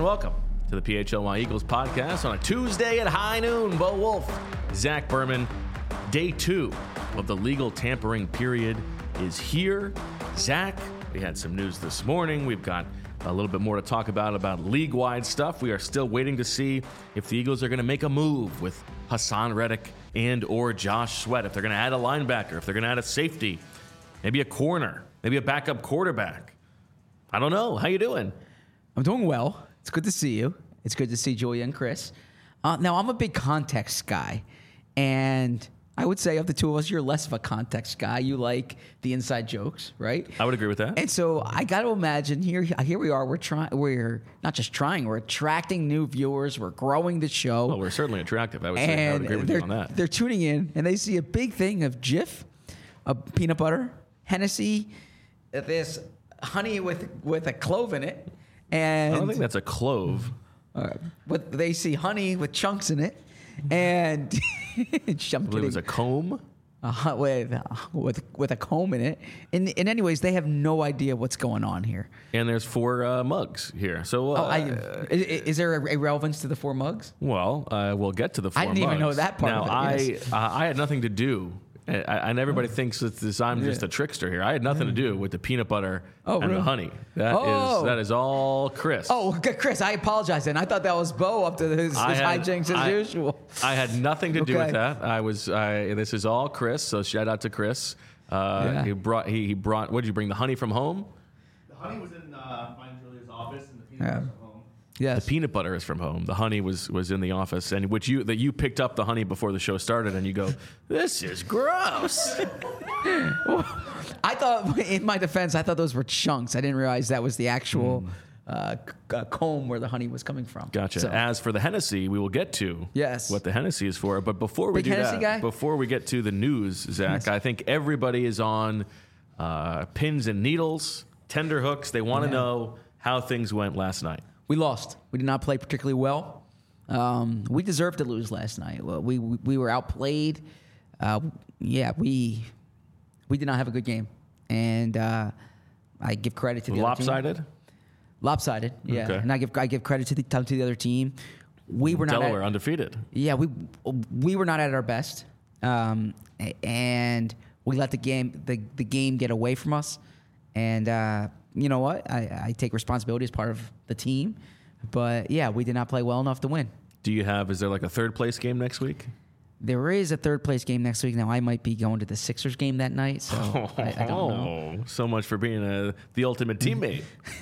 welcome to the PHLY Eagles podcast on a Tuesday at high noon. Bo Wolf, Zach Berman. Day 2 of the legal tampering period is here. Zach, we had some news this morning. We've got a little bit more to talk about league-wide stuff. We are still waiting to see if the Eagles are going to make a move with Hassan Reddick and or Josh Sweat, if they're going to add a linebacker, if they're going to add a safety, maybe a corner, maybe a backup quarterback. I don't know. How you doing? I'm doing well. It's good to see you. It's good to see Julia and Chris. Now, I'm a big context guy, and I would say of the two of us, you're less of a context guy. You like the inside jokes, right? I would agree with that. And so I got to imagine here we are. We're not just trying. We're attracting new viewers. We're growing the show. Well, we're certainly attractive. I would say I would agree with you on that. They're tuning in and they see a big thing of Jif, peanut butter, Hennessy, this honey with a clove in it, and I don't think that's a clove. But they see honey with chunks in it, and I believe it was a comb. With a comb in it. And anyways, they have no idea what's going on here. And there's 4 mugs here. So is there a relevance to the 4 mugs? Well, we'll get to the 4 mugs. I didn't even know that part now, of it. Yes. I had nothing to do. And everybody thinks that I'm just a trickster here. I had nothing to do with the peanut butter and the honey. That is all Chris. Oh, Chris, I apologize. And I thought that was Bo up to his hijinks as usual. I had nothing to do with that. This is all Chris. So shout out to Chris. He brought. What did you bring? The honey from home? The honey was in mine and Julia's office, and the peanut butter was from home. Yes. The peanut butter is from home. The honey was in the office, and you picked up the honey before the show started, and you go, "This is gross." I thought, in my defense, those were chunks. I didn't realize that was the actual comb where the honey was coming from. Gotcha. So, As for the Hennessy, we will get to what the Hennessy is for. But before we Big do Hennessy that, guy? before we get to the news, Zach, I think everybody is on pins and needles, tender hooks. They want to know how things went last night. We lost. We did not play particularly well. We deserved to lose last night. We were outplayed. We did not have a good game, and I give credit to the Lopsided? other team. Lopsided, yeah. Okay. And I give credit to the other team. We were not Delaware undefeated. Yeah, we were not at our best, and we let the game get away from us. And you know what? I take responsibility as part of the team, but yeah, we did not play well enough to win. Is there like a third place game next week? There is a third place game next week. Now, I might be going to the Sixers game that night, so I don't know. So much for being the ultimate teammate.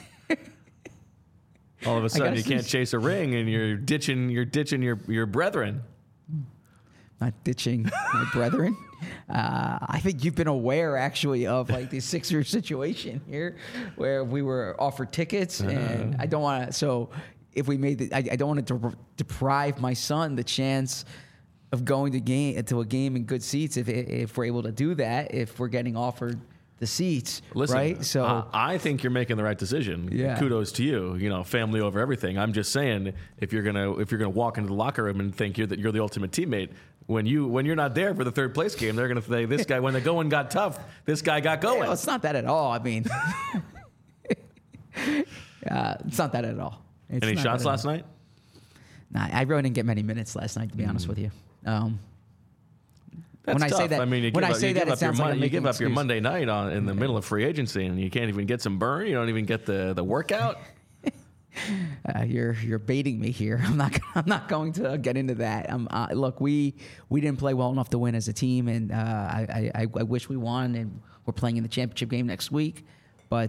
All of a sudden, you can't chase a ring, and you're ditching your brethren. Not ditching my brethren. I think you've been aware, actually, of like the Sixers situation here, where we were offered tickets, and I don't want to. So, if we made I don't want to deprive my son the chance of going to a game in good seats. If we're able to do that, if we're getting offered the seats, listen, right? So I think you're making the right decision. Yeah. Kudos to you. You know, family over everything. I'm just saying, if you're gonna walk into the locker room and think you're the ultimate teammate, when you're not there for the third place game, they're gonna say, this guy, when the going got tough, this guy got going. well, it's not that at all. I mean, it's not that at all. Any shots last night? Nah, I really didn't get many minutes last night, to be honest with you. That's when tough. I say that, I mean, you give up your Monday night in the middle of free agency, and you can't even get some burn. You don't even get the workout. You're baiting me here. I'm not going to get into that. Look, we didn't play well enough to win as a team, and I wish we won. And we're playing in the championship game next week, but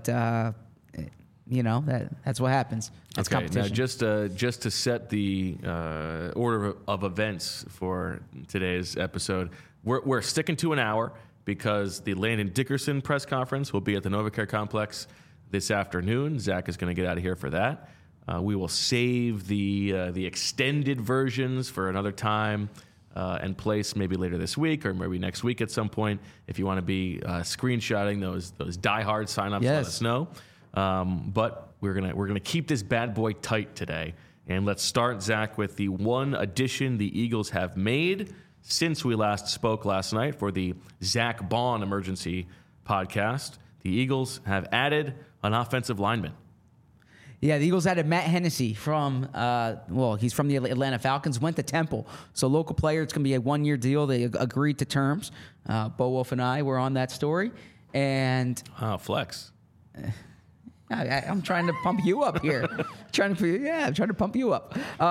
that's what happens. That's competition. Now, just to set the order of events for today's episode, we're sticking to an hour because the Landon Dickerson press conference will be at the NovaCare Complex this afternoon. Zach is going to get out of here for that. We will save the extended versions for another time and place, maybe later this week or maybe next week at some point. If you want to be screenshotting those diehard signups, let us know. But we're gonna keep this bad boy tight today, and let's start, Zach, with the one addition the Eagles have made since we last spoke last night for the Zach Baun Emergency podcast. The Eagles have added an offensive lineman. Yeah, the Eagles added Matt Hennessy from, he's from the Atlanta Falcons, went to Temple. So local player, it's going to be a 1-year deal. They agreed to terms. Bo Wolf and I were on that story. And flex. I'm trying to pump you up here. I'm trying to pump you up.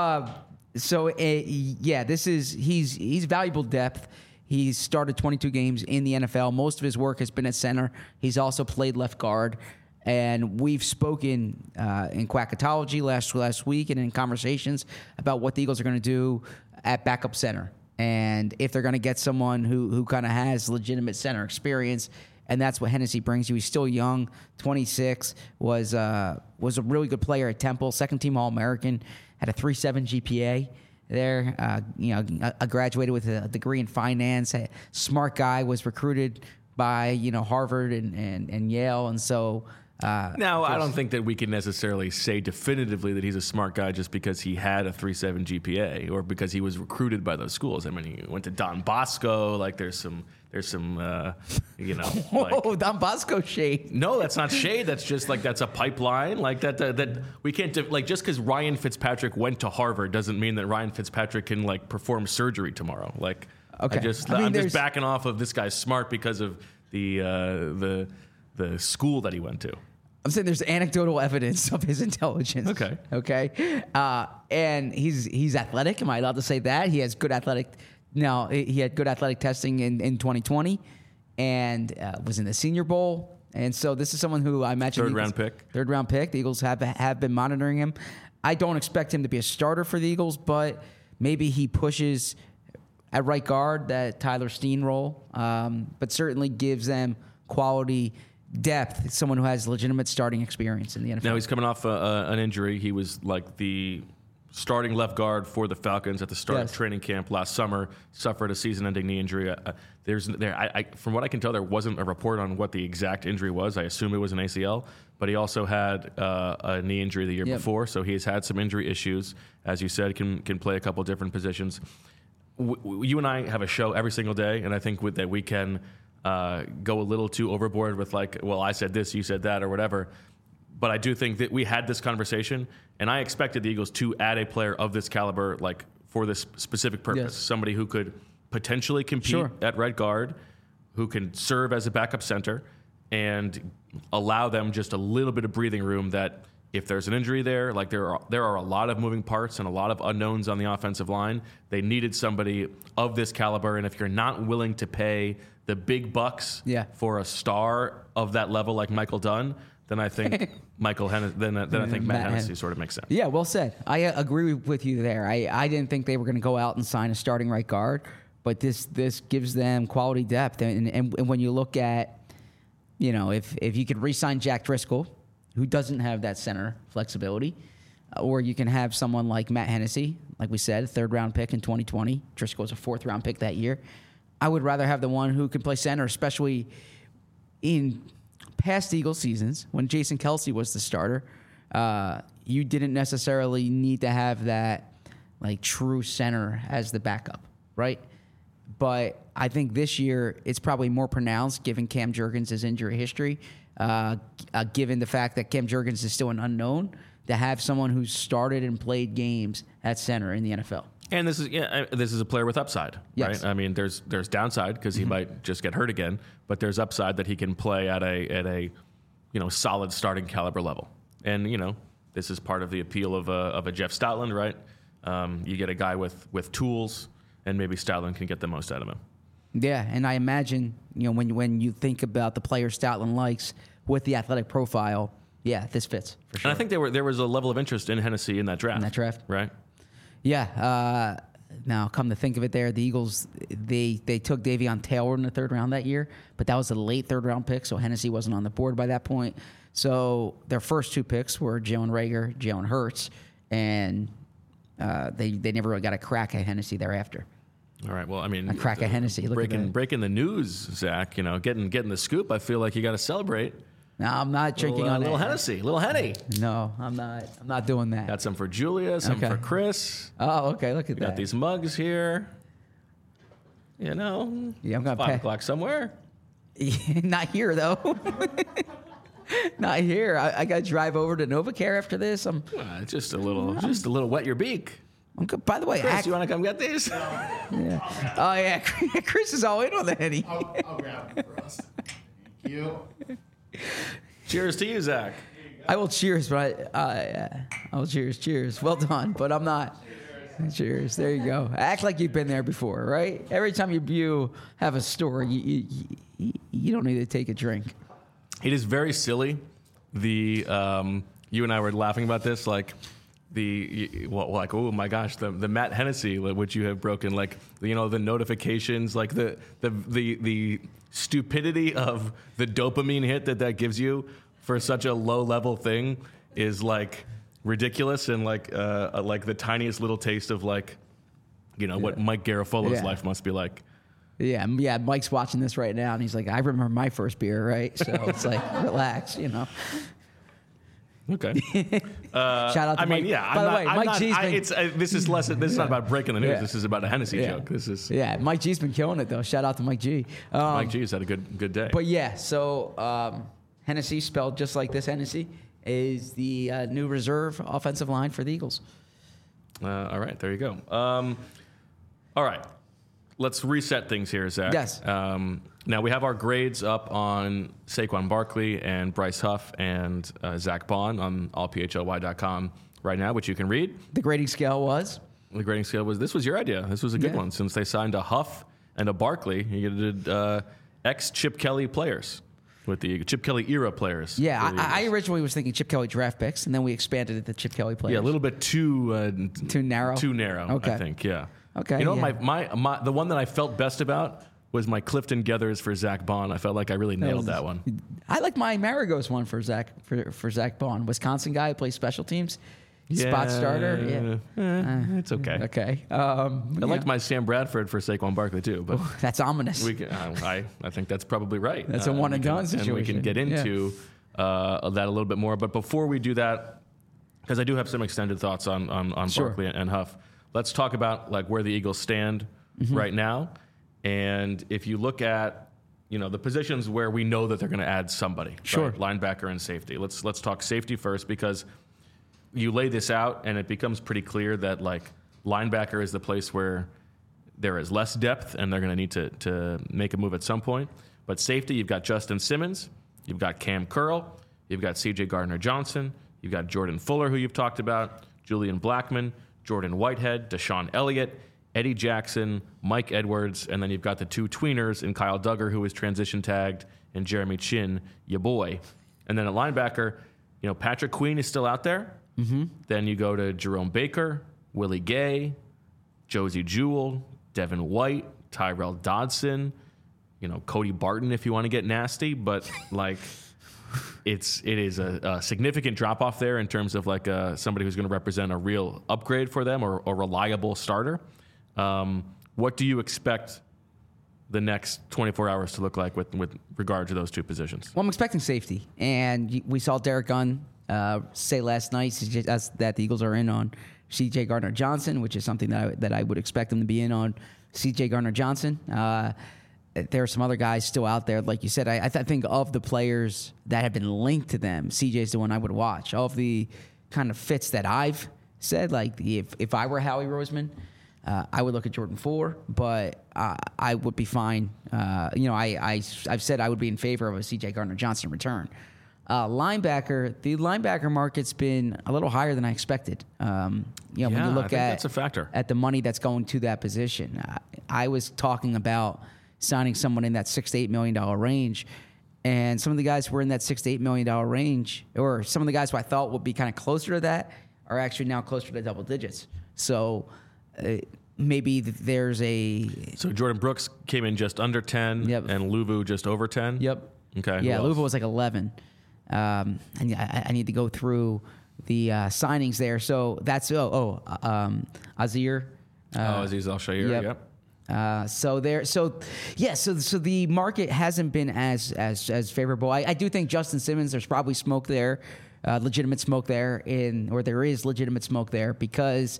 He's valuable depth. He's started 22 games in the NFL. Most of his work has been at center. He's also played left guard. And we've spoken in Quackatology last week and in conversations about what the Eagles are going to do at backup center. And if they're going to get someone who kind of has legitimate center experience. And that's what Hennessy brings you. He's still young, 26, was a really good player at Temple, second-team All-American, had a 3.7 GPA there. Graduated with a degree in finance. A smart guy, was recruited by Harvard and Yale, and so. Now, I don't think that we can necessarily say definitively that he's a smart guy just because he had a 3.7 GPA or because he was recruited by those schools. I mean, he went to Don Bosco. Like, there's some, Whoa, Don Bosco shade. No, that's not shade. That's just that's a pipeline. Like that we can't just because Ryan Fitzpatrick went to Harvard doesn't mean that Ryan Fitzpatrick can perform surgery tomorrow. Like, okay. I'm just backing off of this guy's smart because of the school that he went to. I'm saying there's anecdotal evidence of his intelligence. Okay. And he's athletic. Am I allowed to say that? He has good athletic. No, he had good athletic testing in 2020 and was in the Senior Bowl. And so this is someone who I imagine third round pick. The Eagles have been monitoring him. I don't expect him to be a starter for the Eagles, but maybe he pushes at right guard that Tyler Steen role, but certainly gives them quality depth. Someone who has legitimate starting experience in the NFL. Now he's coming off an injury. He was the starting left guard for the Falcons at the start of training camp last summer. Suffered a season-ending knee injury. From what I can tell, there wasn't a report on what the exact injury was. I assume it was an ACL, but he also had a knee injury the year before, so he's had some injury issues. As you said, can play a couple different positions. You and I have a show every single day, and I think that we can go a little too overboard with I said this, you said that, or whatever. But I do think that we had this conversation, and I expected the Eagles to add a player of this caliber, for this specific purpose. Yes. Somebody who could potentially compete at right guard, who can serve as a backup center, and allow them just a little bit of breathing room that if there's an injury there, there are a lot of moving parts and a lot of unknowns on the offensive line. They needed somebody of this caliber, and if you're not willing to pay the big bucks for a star of that level like Michael Dunn, then I think Matt Hennessy sort of makes sense. Yeah, well said. I agree with you there. I didn't think they were going to go out and sign a starting right guard, but this gives them quality depth. And when you look at, if you could re-sign Jack Driscoll, who doesn't have that center flexibility, or you can have someone like Matt Hennessy, like we said, third-round pick in 2020. Driscoll was a fourth-round pick that year. I would rather have the one who can play center, especially in past Eagles seasons when Jason Kelce was the starter. You didn't necessarily need to have that true center as the backup, right? But I think this year it's probably more pronounced given Cam Jurgens' injury history, given the fact that Cam Jurgens is still an unknown, to have someone who's started and played games at center in the NFL. And this is a player with upside, right? I mean, there's downside because he might just get hurt again, but there's upside that he can play at a solid starting caliber level. And this is part of the appeal of a Jeff Stoutland, right? You get a guy with tools, and maybe Stoutland can get the most out of him. Yeah, and I imagine when you think about the player Stoutland likes with the athletic profile, this fits for sure. And I think there was a level of interest in Hennessy in that draft. Right? Yeah. Now, come to think of it, the Eagles they took Davion Taylor in the third round that year, but that was a late third round pick, so Hennessy wasn't on the board by that point. So their first two picks were Jalen Reagor, Jalen Hurts, and they never really got a crack at Hennessy thereafter. All right. Well, I mean, a crack at Hennessy. Breaking the news, Zach. Getting the scoop. I feel like you got to celebrate. No, I'm not drinking on little Hennessy, little Henny. No, I'm not. I'm not doing that. Got some for Julia, some for Chris. Oh, okay. Look at that. Got these mugs here. Yeah, I'm gonna 5 o'clock somewhere. Not here though. Not here. I got to drive over to NovaCare after this. Just a little wet your beak. I'm good. By the way, Chris, you want to come get these? Yeah. Oh yeah, Chris is all in on the Henny. I'll grab it for us. Thank you. Cheers to you, Zach. I will cheers, but I will cheers. Well done, but I'm not. Cheers. There you go. Act like you've been there before, right? Every time you have a story, you don't need to take a drink. It is very silly. You and I were laughing about this, like oh my gosh, the Matt Hennessy, which you have broken, like the notifications, like the stupidity of the dopamine hit that gives you for such a low level thing is like ridiculous, and like the tiniest little taste of what Mike Garafolo's life must be like. Yeah. Mike's watching this right now, and he's like, I remember my first beer, right? So it's like, relax, Okay. Shout out to Mike. By the way, Mike G's been... This is not about breaking the news. Yeah. This is about a Hennessy joke. This is... Yeah, Mike G's been killing it, though. Shout out to Mike G. Mike G's had a good day. But yeah, so Hennessy, spelled just like this Hennessy, is the new reserve offensive line for the Eagles. All right, there you go. All right, let's reset things here, Zach. Yes. Now we have our grades up on Saquon Barkley and Bryce Huff and Zach Bond on allphly.com right now, which you can read. The grading scale was? The grading scale was, this was your idea. This was a good one. Since they signed a Huff and a Barkley, you did ex-Chip Kelly players. With the Chip Kelly era players. Yeah, I originally was thinking Chip Kelly draft picks, and then we expanded it to Chip Kelly players. Yeah, a little bit too narrow. Too narrow, okay. I think. Yeah. Okay. You know, my the one that I felt best about was my Clifton Geathers for Zach Bond. I felt like I really nailed that one. I like my Maragos one for Zach Bond. Wisconsin guy who plays special teams. Spot starter. Yeah. It's okay. Okay. I liked my Sam Bradford for Saquon Barkley too, but that's ominous. I think that's probably right. That's a one and done situation. And we can get into that a little bit more. But before we do that, because I do have some extended thoughts on Barkley and Huff, let's talk about like where the Eagles stand right now. And if you look at the positions where we know that they're going to add somebody, sure, right? Linebacker and safety. Let's talk safety first, because you lay this out and it becomes pretty clear that like linebacker is the place where there is less depth and they're going to need to make a move at some point. But safety, you've got Justin Simmons, you've got Cam Curl, you've got C.J. Gardner-Johnson, you've got Jordan Fuller, who you've talked about, Julian Blackmon, Jordan Whitehead, Deshaun Elliott, Eddie Jackson, Mike Edwards, and then you've got the two tweeners in Kyle Duggar, who is transition tagged, and Jeremy Chin, ya boy. And then at linebacker, Patrick Queen is still out there. Mm-hmm. Then you go to Jerome Baker, Willie Gay, Josie Jewell, Devin White, Tyrell Dodson, Cody Barton if you want to get nasty. But like, it is a significant drop off there in terms of like somebody who's going to represent a real upgrade for them or a reliable starter. What do you expect the next 24 hours to look like with regard to those two positions? Well, I'm expecting safety, and we saw Derek Gunn say last night that the Eagles are in on C.J. Gardner-Johnson, which is something that I would expect them to be in on. C.J. Gardner-Johnson. There are some other guys still out there, like you said. I think of the players that have been linked to them, C.J. is the one I would watch. Of the kind of fits that I've said, like if I were Howie Roseman, I would look at Jordan Fuller, but I would be fine. I've said I would be in favor of a C.J. Gardner-Johnson return. Linebacker, the linebacker market's been a little higher than I expected. When you look that's a factor. At the money that's going to that position, I was talking about signing someone in that $6 to $8 million range, and some of the guys who were in that $6 to $8 million range, or some of the guys who I thought would be kind of closer to that, are actually now closer to double digits. So maybe there's So Jordan Brooks came in just under 10, yep, and Luvu just over 10. Yep. Okay. Yeah, Luvu was like 11. And I need to go through the signings there. So that's Azir. Aziz Al-Shair. Yep. So the market hasn't been as favorable. I do think Justin Simmons, there's probably smoke there, legitimate smoke there, there is legitimate smoke there because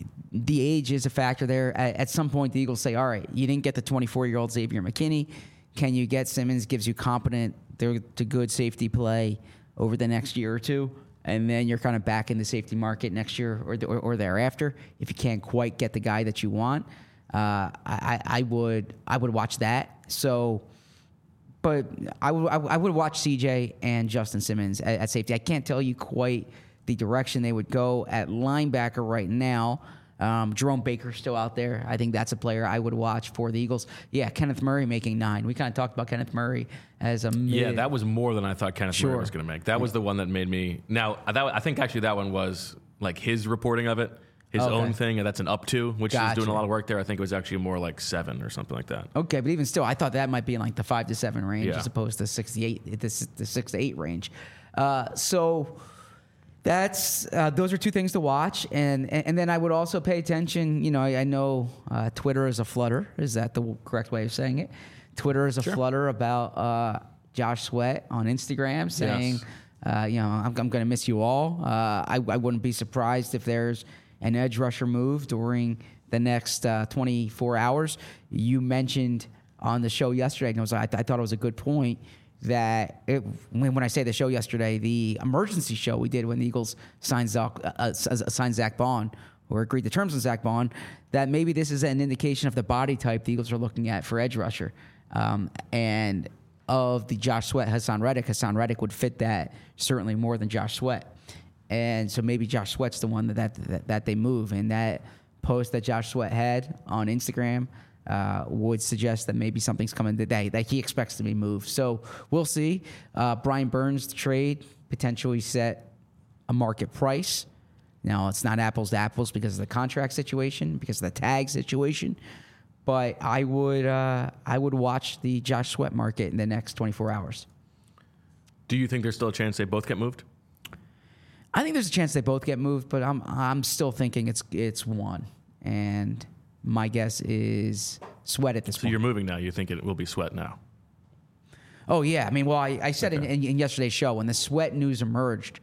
the age is a factor there. At some point, the Eagles say, all right, you didn't get the 24-year-old Xavier McKinney. Can you get Simmons? Gives you competent, to good safety play over the next year or two, and then you're kind of back in the safety market next year or thereafter. If you can't quite get the guy that you want, I would watch that. So, but I would watch CJ and Justin Simmons at safety. I can't tell you quite the direction they would go at linebacker right now. Jerome Baker's still out there. I think that's a player I would watch for the Eagles. Yeah, Kenneth Murray making 9. We kind of talked about Kenneth Murray as a mid. Yeah, that was more than I thought Kenneth Murray was going to make. That was the one that made me. Now, I think actually that one was like his reporting of it, his own thing, and that's an up to, which is doing a lot of work there. I think it was actually more like 7 or something like that. Okay, but even still, I thought that might be in like the 5 to 7 range as opposed to 6 to 8, the 6 to 8 range. So. That's those are two things to watch, and then I would also pay attention. You know, I know Twitter is a flutter. Is that the correct way of saying it? Twitter is a flutter about Josh Sweat on Instagram saying, you know, I'm going to miss you all. I wouldn't be surprised if there's an edge rusher move during the next 24 hours. You mentioned on the show yesterday, and I thought it was a good point. That when I say the show yesterday, the emergency show we did when the Eagles signed Zach Bond or agreed to terms with Zach Bond, that maybe this is an indication of the body type the Eagles are looking at for edge rusher, and of the Josh Sweat Hassan Reddick would fit that certainly more than Josh Sweat, and so maybe Josh Sweat's the one that they move. And that post that Josh Sweat had on Instagram. Would suggest that maybe something's coming today that he expects to be moved. So we'll see. Brian Burns trade potentially set a market price. Now it's not apples to apples because of the contract situation, because of the tag situation. But I would watch the Josh Sweat market in the next 24 hours. Do you think there's still a chance they both get moved? I think there's a chance they both get moved, but I'm still thinking it's one. And my guess is Sweat at this point. So you're moving now. You think it will be Sweat now? Oh, yeah. I mean, well, I said in yesterday's show, when the Sweat news emerged,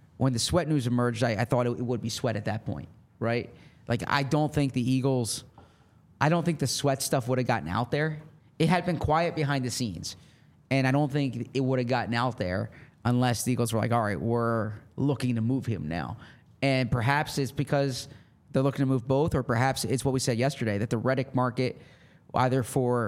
I thought it would be Sweat at that point, right? Like, I don't think the Sweat stuff would have gotten out there. It had been quiet behind the scenes, and I don't think it would have gotten out there unless the Eagles were like, all right, we're looking to move him now. And perhaps it's because they're looking to move both, or perhaps it's what we said yesterday, that the Reddick market, either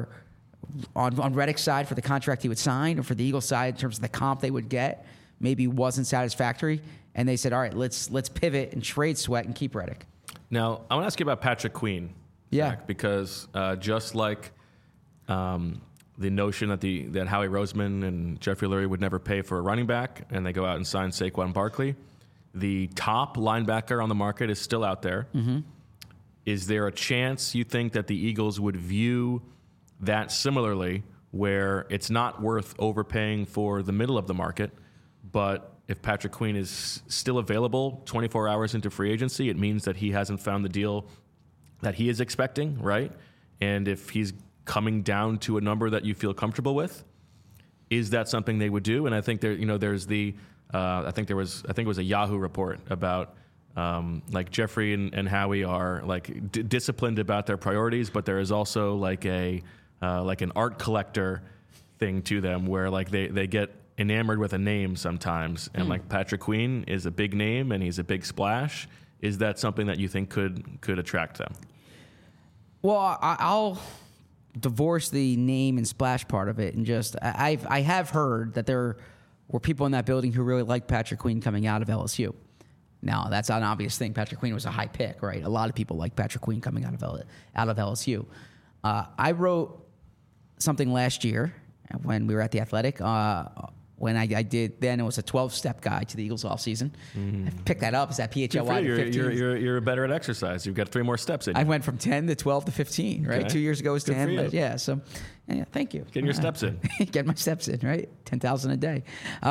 on Reddick's side for the contract he would sign, or for the Eagles side in terms of the comp they would get, maybe wasn't satisfactory. And they said, all right, let's pivot and trade Sweat and keep Reddick. Now, I want to ask you about Patrick Queen. Yeah. Zach, because just like the notion that Howie Roseman and Jeffrey Lurie would never pay for a running back, and they go out and sign Saquon Barkley, the top linebacker on the market is still out there. Mm-hmm. Is there a chance you think that the Eagles would view that similarly, where it's not worth overpaying for the middle of the market, but if Patrick Queen is still available 24 hours into free agency, it means that he hasn't found the deal that he is expecting, right? And if he's coming down to a number that you feel comfortable with, is that something they would do? And I think there's the I think it was a Yahoo report about like Jeffrey and Howie are like disciplined about their priorities, but there is also like an art collector thing to them where like they get enamored with a name sometimes, and like Patrick Queen is a big name and he's a big splash. Is that something that you think could attract them? Well, I'll divorce the name and splash part of it, and just I have heard that there were people in that building who really liked Patrick Queen coming out of LSU. Now, that's an obvious thing. Patrick Queen was a high pick, right? A lot of people like Patrick Queen coming out of LSU. I wrote something last year when we were at The Athletic. When I did, then it was a 12-step guide to the Eagles offseason. I picked that up. It's that PHLY to 15. You're better at exercise. You've got 3 more steps in you. I went from 10 to 12 to 15, right? Okay. 2 years ago was Good 10. for you. But yeah, so yeah, thank you. Getting your steps in. Get my steps in, right? 10,000 a day.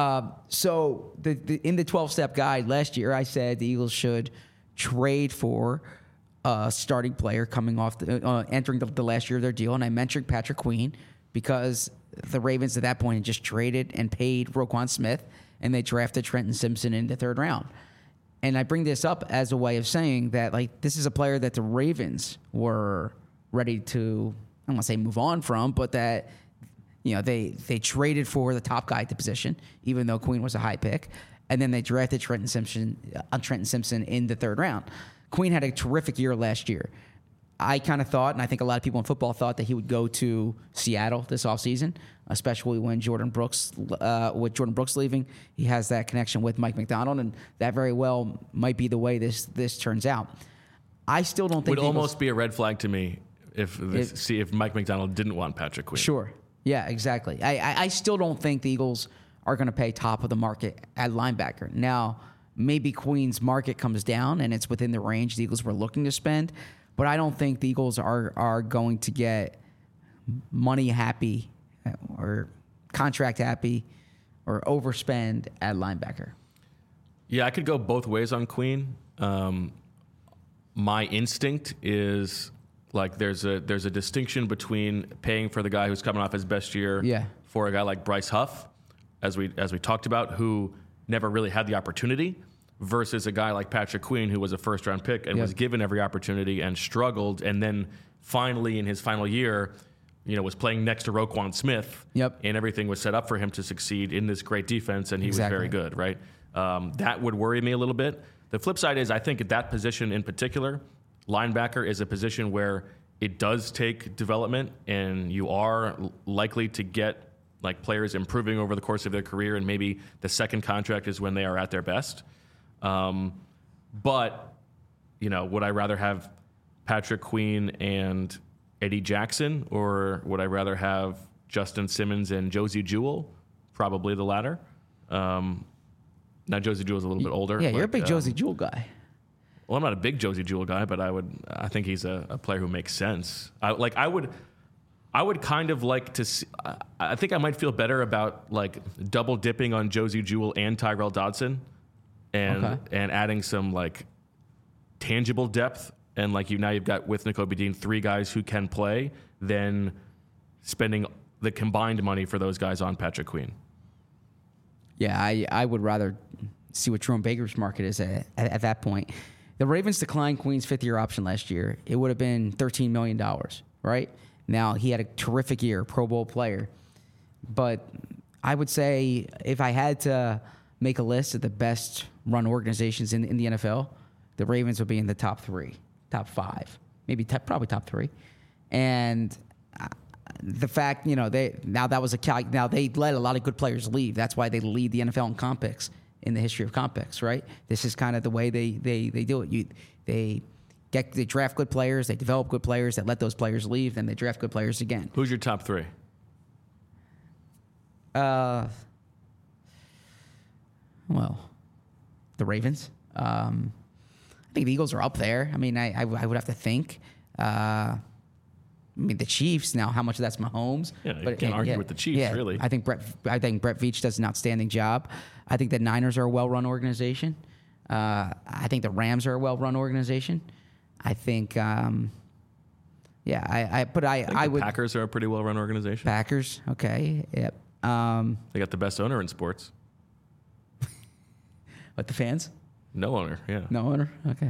So in the 12-step guide last year, I said the Eagles should trade for a starting player coming off entering the last year of their deal, and I mentioned Patrick Queen because the Ravens at that point had just traded and paid Roquan Smith, and they drafted Trenton Simpson in the 3rd round. And I bring this up as a way of saying that, like, this is a player that the Ravens were ready to, I don't want to say move on from, but that they traded for the top guy at the position, even though Queen was a high pick, and then they drafted Trenton Simpson in the third round. Queen had a terrific year last year. I kind of thought, and I think a lot of people in football thought, that he would go to Seattle this offseason, especially when Jordan Brooks leaving. He has that connection with Mike McDonald, and that very well might be the way this turns out. I still don't think would almost be a red flag to me if Mike McDonald didn't want Patrick Queen. Sure. Yeah, exactly. I still don't think the Eagles are going to pay top of the market at linebacker. Now, maybe Queen's market comes down and it's within the range the Eagles were looking to spend, but I don't think the Eagles are going to get money happy or contract happy or overspend at linebacker. Yeah, I could go both ways on Queen. My instinct is like there's a distinction between paying for the guy who's coming off his best year for a guy like Bryce Huff, as we talked about, who never really had the opportunity, versus a guy like Patrick Queen, who was a first-round pick and was given every opportunity and struggled, and then finally in his final year, was playing next to Roquan Smith, and everything was set up for him to succeed in this great defense, and he was very good, right? That would worry me a little bit. The flip side is I think at that position in particular, linebacker is a position where it does take development, and you are likely to get like players improving over the course of their career, and maybe the second contract is when they are at their best. But, would I rather have Patrick Queen and Eddie Jackson, or would I rather have Justin Simmons and Josie Jewell? Probably the latter. Now, Josie Jewell's a little bit older. Yeah, you're a big Josie Jewell guy. Well, I'm not a big Josie Jewell guy, but I think he's a player who makes sense. I would kind of like to see, I think I might feel better about like double dipping on Josie Jewell and Tyrell Dodson and adding some like tangible depth. And like you've got with Nakobe Dean 3 guys who can play, than spending the combined money for those guys on Patrick Queen. Yeah, I would rather see what Jerome Baker's market is at that point. The Ravens declined Queen's 5th-year option last year. It would have been $13 million, right? Now, he had a terrific year, Pro Bowl player. But I would say if I had to make a list of the best run organizations in the NFL, the Ravens would be in the top 3, top 5, maybe probably top 3. And the fact, they let a lot of good players leave. That's why they lead the NFL in comp picks in the history of comp picks, right? This is kind of the way they do it. They draft good players, they develop good players, they let those players leave, then they draft good players again. Who's your top 3? Well, the Ravens. I think the Eagles are up there. I mean, I would have to think. The Chiefs, now how much of that's Mahomes? Yeah, you can't argue with the Chiefs, really. I think Brett Veach does an outstanding job. I think the Niners are a well-run organization. I think the Rams are a well-run organization. I think, I would. The Packers are a pretty well-run organization. Packers, okay, yep. They got the best owner in sports. What, the fans? No owner, yeah. No owner, okay.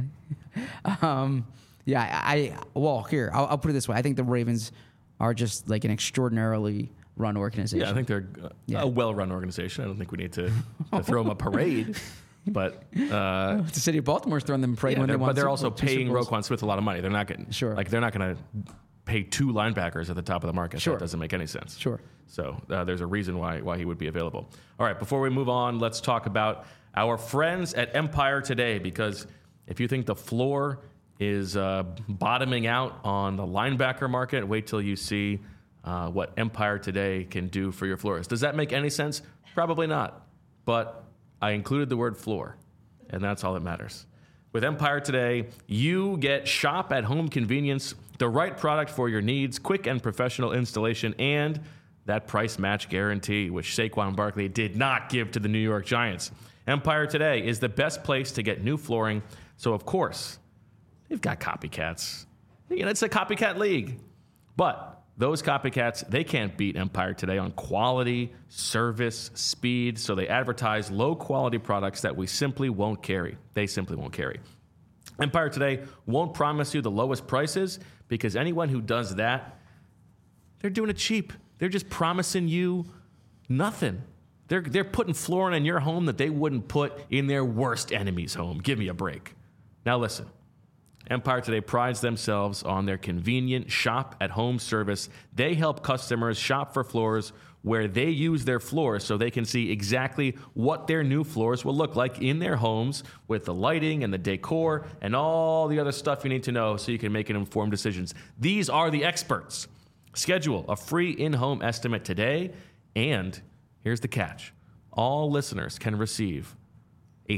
Here, I'll put it this way. I think the Ravens are just like an extraordinarily run organization. Yeah, I think they're a well-run organization. I don't think we need to throw them a parade. But the city of Baltimore's throwing them a parade when they won. But they're also paying Roquan Smith a lot of money. They're not getting they're not going to pay 2 linebackers at the top of the market. That doesn't make any sense. Sure. So there's a reason why he would be available. All right, before we move on, let's talk about our friends at Empire Today, because if you think the floor is bottoming out on the linebacker market, wait till you see what Empire Today can do for your floors. Does that make any sense? Probably not. But I included the word floor, and that's all that matters. With Empire Today, you get shop-at-home convenience, the right product for your needs, quick and professional installation, and that price match guarantee, which Saquon Barkley did not give to the New York Giants. Empire Today is the best place to get new flooring, so of course, they've got copycats. It's a copycat league. But those copycats, they can't beat Empire Today on quality, service, speed, so they advertise low-quality products that we simply won't carry. They simply won't carry. Empire Today won't promise you the lowest prices, because anyone who does that, they're doing it cheap. They're just promising you nothing. They're putting flooring in your home that they wouldn't put in their worst enemy's home. Give me a break. Now listen. Empire Today prides themselves on their convenient shop-at-home service. They help customers shop for floors where they use their floors so they can see exactly what their new floors will look like in their homes with the lighting and the decor and all the other stuff you need to know so you can make an informed decisions. These are the experts. Schedule a free in-home estimate today, and here's the catch. All listeners can receive a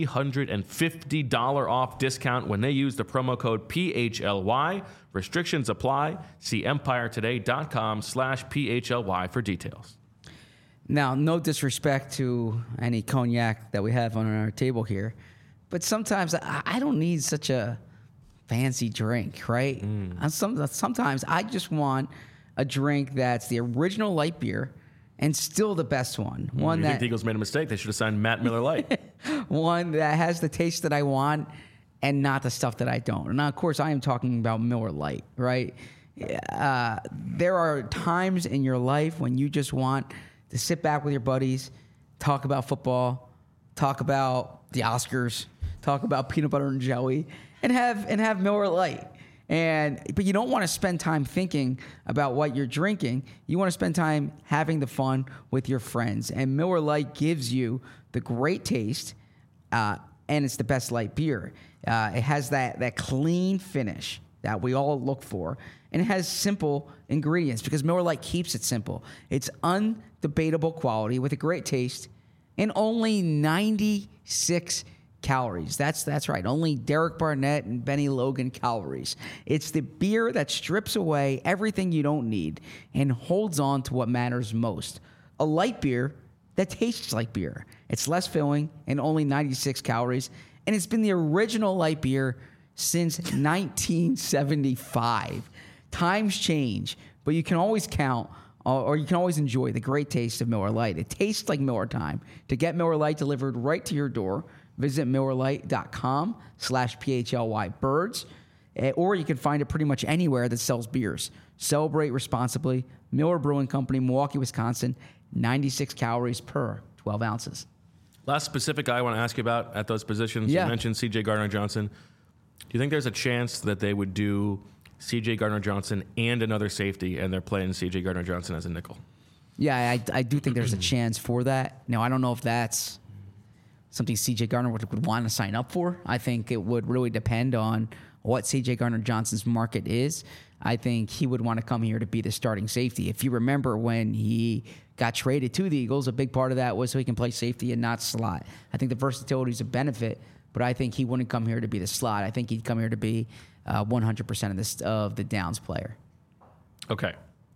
$350 off discount when they use the promo code PHLY. Restrictions apply. See empiretoday.com/PHLY for details. Now, no disrespect to any cognac that we have on our table here, but sometimes I don't need such a fancy drink, right? Sometimes I just want a drink that's the original light beer and still the best one. You think the Eagles made a mistake? They should have signed Matt Miller Light. One that has the taste that I want and not the stuff that I don't. Now, of course, I am talking about Miller Lite, right? There are times in your life when you just want to sit back with your buddies, talk about football, talk about the Oscars, talk about peanut butter and jelly, and have Miller Lite. But you don't want to spend time thinking about what you're drinking. You want to spend time having the fun with your friends. And Miller Lite gives you the great taste, and it's the best light beer. It has that clean finish that we all look for, and it has simple ingredients because Miller Lite keeps it simple. It's undebatable quality with a great taste and only 96 calories. That's right. Only Derek Barnett and Benny Logan calories. It's the beer that strips away everything you don't need and holds on to what matters most. A light beer that tastes like beer. It's less filling and only 96 calories. And it's been the original light beer since 1975. Times change, but you can always count or you can always enjoy the great taste of Miller Lite. It tastes like Miller time. To get Miller Lite delivered right to your door, visit MillerLite.com/PHLYBirds, or you can find it pretty much anywhere that sells beers. Celebrate responsibly. Miller Brewing Company, Milwaukee, Wisconsin, 96 calories per 12 ounces. Last specific guy I want to ask you about at those positions. Yeah. You mentioned C.J. Gardner-Johnson. Do you think there's a chance that they would do C.J. Gardner-Johnson and another safety, and they're playing C.J. Gardner-Johnson as a nickel? Yeah, I do think there's a chance for that. Now, I don't know if that's something C.J. Gardner would want to sign up for. I think it would really depend on what C.J. Gardner-Johnson's market is. I think he would want to come here to be the starting safety. If you remember when he got traded to the Eagles, a big part of that was so he can play safety and not slot. I think the versatility is a benefit, but I think he wouldn't come here to be the slot. I think he'd come here to be 100% of the downs player. Okay.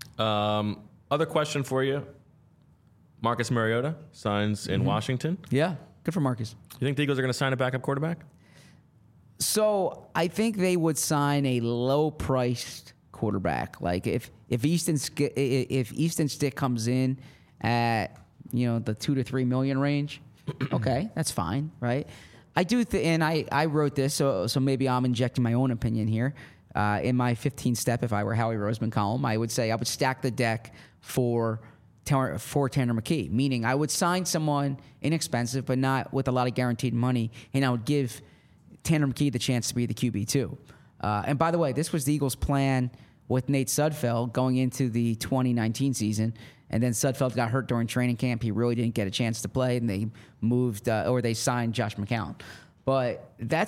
Other question for you. Marcus Mariota signs in Washington. Yeah, good for Marcus. You think the Eagles are going to sign a backup quarterback? So I think they would sign a low-priced quarterback. Like if Easton Stick comes in at the $2 to $3 million range, okay, that's fine, right? I do, and I wrote this, so maybe I'm injecting my own opinion here. In my 15-step, if I were Howie Roseman column, I would say I would stack the deck for Tanner McKee, meaning I would sign someone inexpensive but not with a lot of guaranteed money, and I would give Tanner McKee the chance to be the QB2. And by the way, this was the Eagles' plan with Nate Sudfeld going into the 2019 season, and then Sudfeld got hurt during training camp. He really didn't get a chance to play, and they moved or they signed Josh McCown. But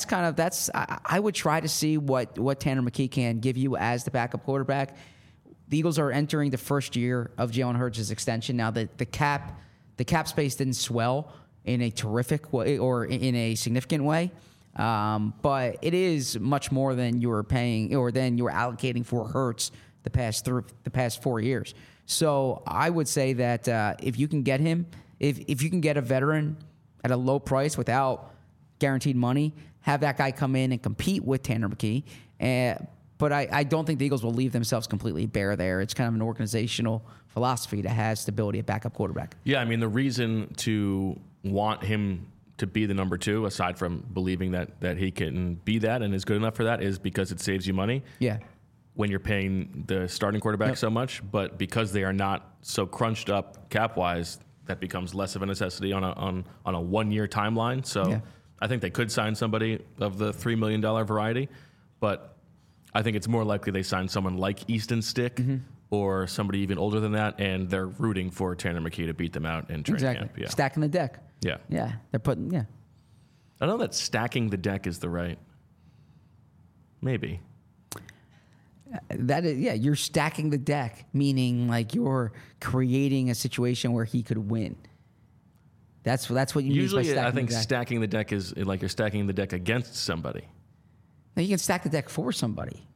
I would try to see what Tanner McKee can give you as the backup quarterback. The Eagles are entering the first year of Jalen Hurts' extension. Now, the cap space didn't swell in a terrific way or in a significant way. But it is much more than you were paying or than you were allocating for Hurts the past 4 years. So I would say that if you can get him, if you can get a veteran at a low price without guaranteed money, have that guy come in and compete with Tanner McKee. But I don't think the Eagles will leave themselves completely bare there. It's kind of an organizational philosophy to have stability at backup quarterback. Yeah, I mean, the reason to want him to be the number two, aside from believing that he can be that and is good enough for that, is because it saves you money. Yeah. when you're paying the starting quarterback so much, but because they are not so crunched up cap wise, that becomes less of a necessity on a 1 year timeline. So I think they could sign somebody of the $3 million variety, but I think it's more likely they sign someone like Easton Stick or somebody even older than that, and they're rooting for Tanner McKee to beat them out in training camp. Yeah. Stacking the deck. Yeah. Yeah. They're putting, I don't know that stacking the deck is the right. Maybe. That is, you're stacking the deck, meaning like you're creating a situation where he could win. That's what you Usually, mean by stacking I think the deck. stacking the deck is like you're stacking the deck against somebody. Now you can stack the deck for somebody.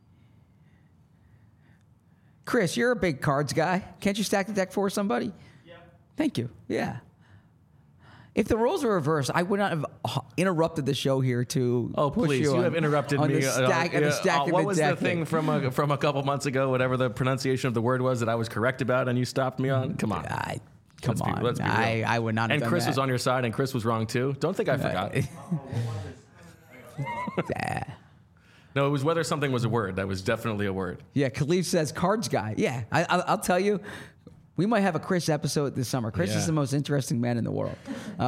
Chris, you're a big cards guy. Can't you stack the deck for somebody? Yeah. Thank you. Yeah. If the roles were reversed, I would not have interrupted the show here to push please! You on- have interrupted on me. The stacking what the was deck the thing from a couple months ago? Whatever the pronunciation of the word was that I was correct about, and you stopped me on. Come on, Come on. Let's be real. I would not have And done Chris that. was on your side, and Chris was wrong too. Don't think I forgot. No, it was whether something was a word. That was definitely a word. Yeah, Khalif says cards guy. Yeah, I'll tell you, we might have a Chris episode this summer. Chris is the most interesting man in the world.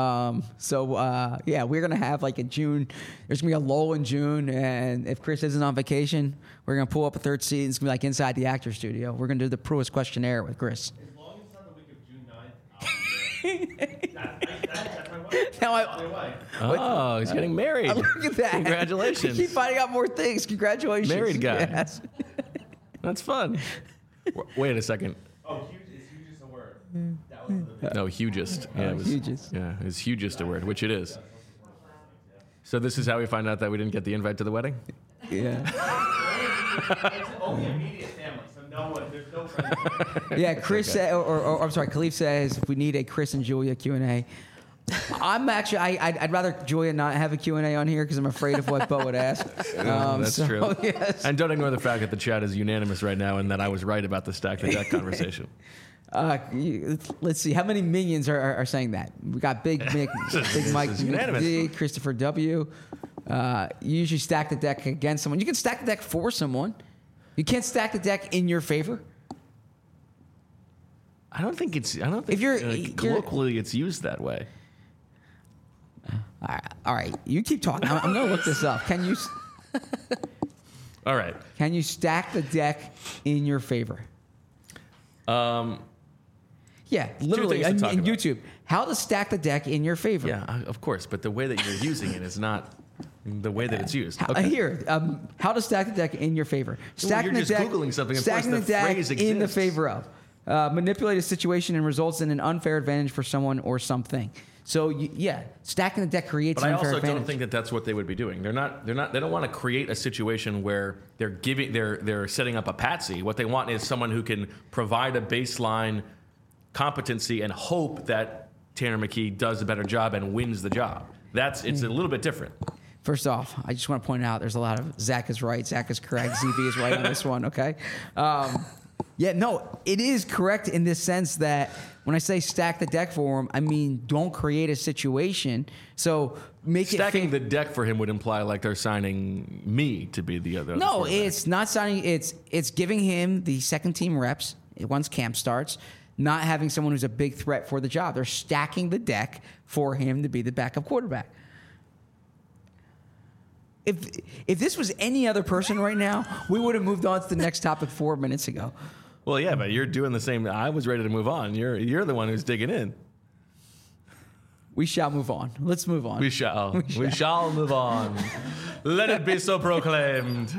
We're going to have like a June. There's going to be a lull in June. And if Chris isn't on vacation, we're going to pull up a third seat. It's going to be like inside the actor studio. We're going to do the Pruitt questionnaire with Chris. As long as it's not the week of June 9th, I'll be there. That's my wife. Now My wife. Oh, he's getting married. Look at that. Congratulations. You keep finding out more things. Congratulations. Married guy. Yes. That's fun. Wait a second. Oh, huge is hugest a word. That was the No, hugest. Yeah, it was hugest. Yeah, it was hugest a word, which it is. So this is how we find out that we didn't get the invite to the wedding? Yeah. It's only immediate family, so there's no friends. Yeah, Chris said, or I'm sorry, Khalif says if we need a Chris and Julia Q&A. I'd rather Julia not have a Q&A on here because I'm afraid of what Bo would ask. That's true. Yes. And don't ignore the fact that the chat is unanimous right now and that I was right about the stack the deck conversation. Let's see. How many minions are saying that? We got Big Mick, Big Mike, is unanimous. D, Christopher W. You usually stack the deck against someone. You can stack the deck for someone. You can't stack the deck in your favor. I don't think If you're- colloquially it's used that way. All right. You keep talking. I'm going to look this up. Can All right. you stack the deck in your favor? Yeah, literally things to talk in about. YouTube. How to stack the deck in your favor. Yeah, of course, but the way that you're using it is not the way that it's used. Here, how to stack the deck in your favor. Stacking you're the just deck, Googling something. Of course, stacking the the deck phrase in the exists. favor of. Manipulate a situation and results in an unfair advantage for someone or something. So stacking the deck creates But an I unfair also advantage. don't think that that's what they would be doing. They don't want to create a situation where they're setting up a patsy. What they want is someone who can provide a baseline competency and hope that Tanner McKee does a better job and wins the job. It's a little bit different. First off, I just want to point out there's a lot of Zach is right, Zach is correct, ZV is right on this one, okay? It is correct in this sense that when I say stack the deck for him, I mean don't create a situation. So make Stacking it the deck for him would imply like they're signing me to be the other. No, quarterback. it's not signing. It's giving him the second team reps once camp starts. Not having someone who's a big threat for the job. They're stacking the deck for him to be the backup quarterback. If this was any other person right now, we would have moved on to the next topic 4 minutes ago. Well, yeah, but you're doing the same. I was ready to move on. You're the one who's digging in. We shall move on. Let's move on. We shall move on. Let it be so proclaimed.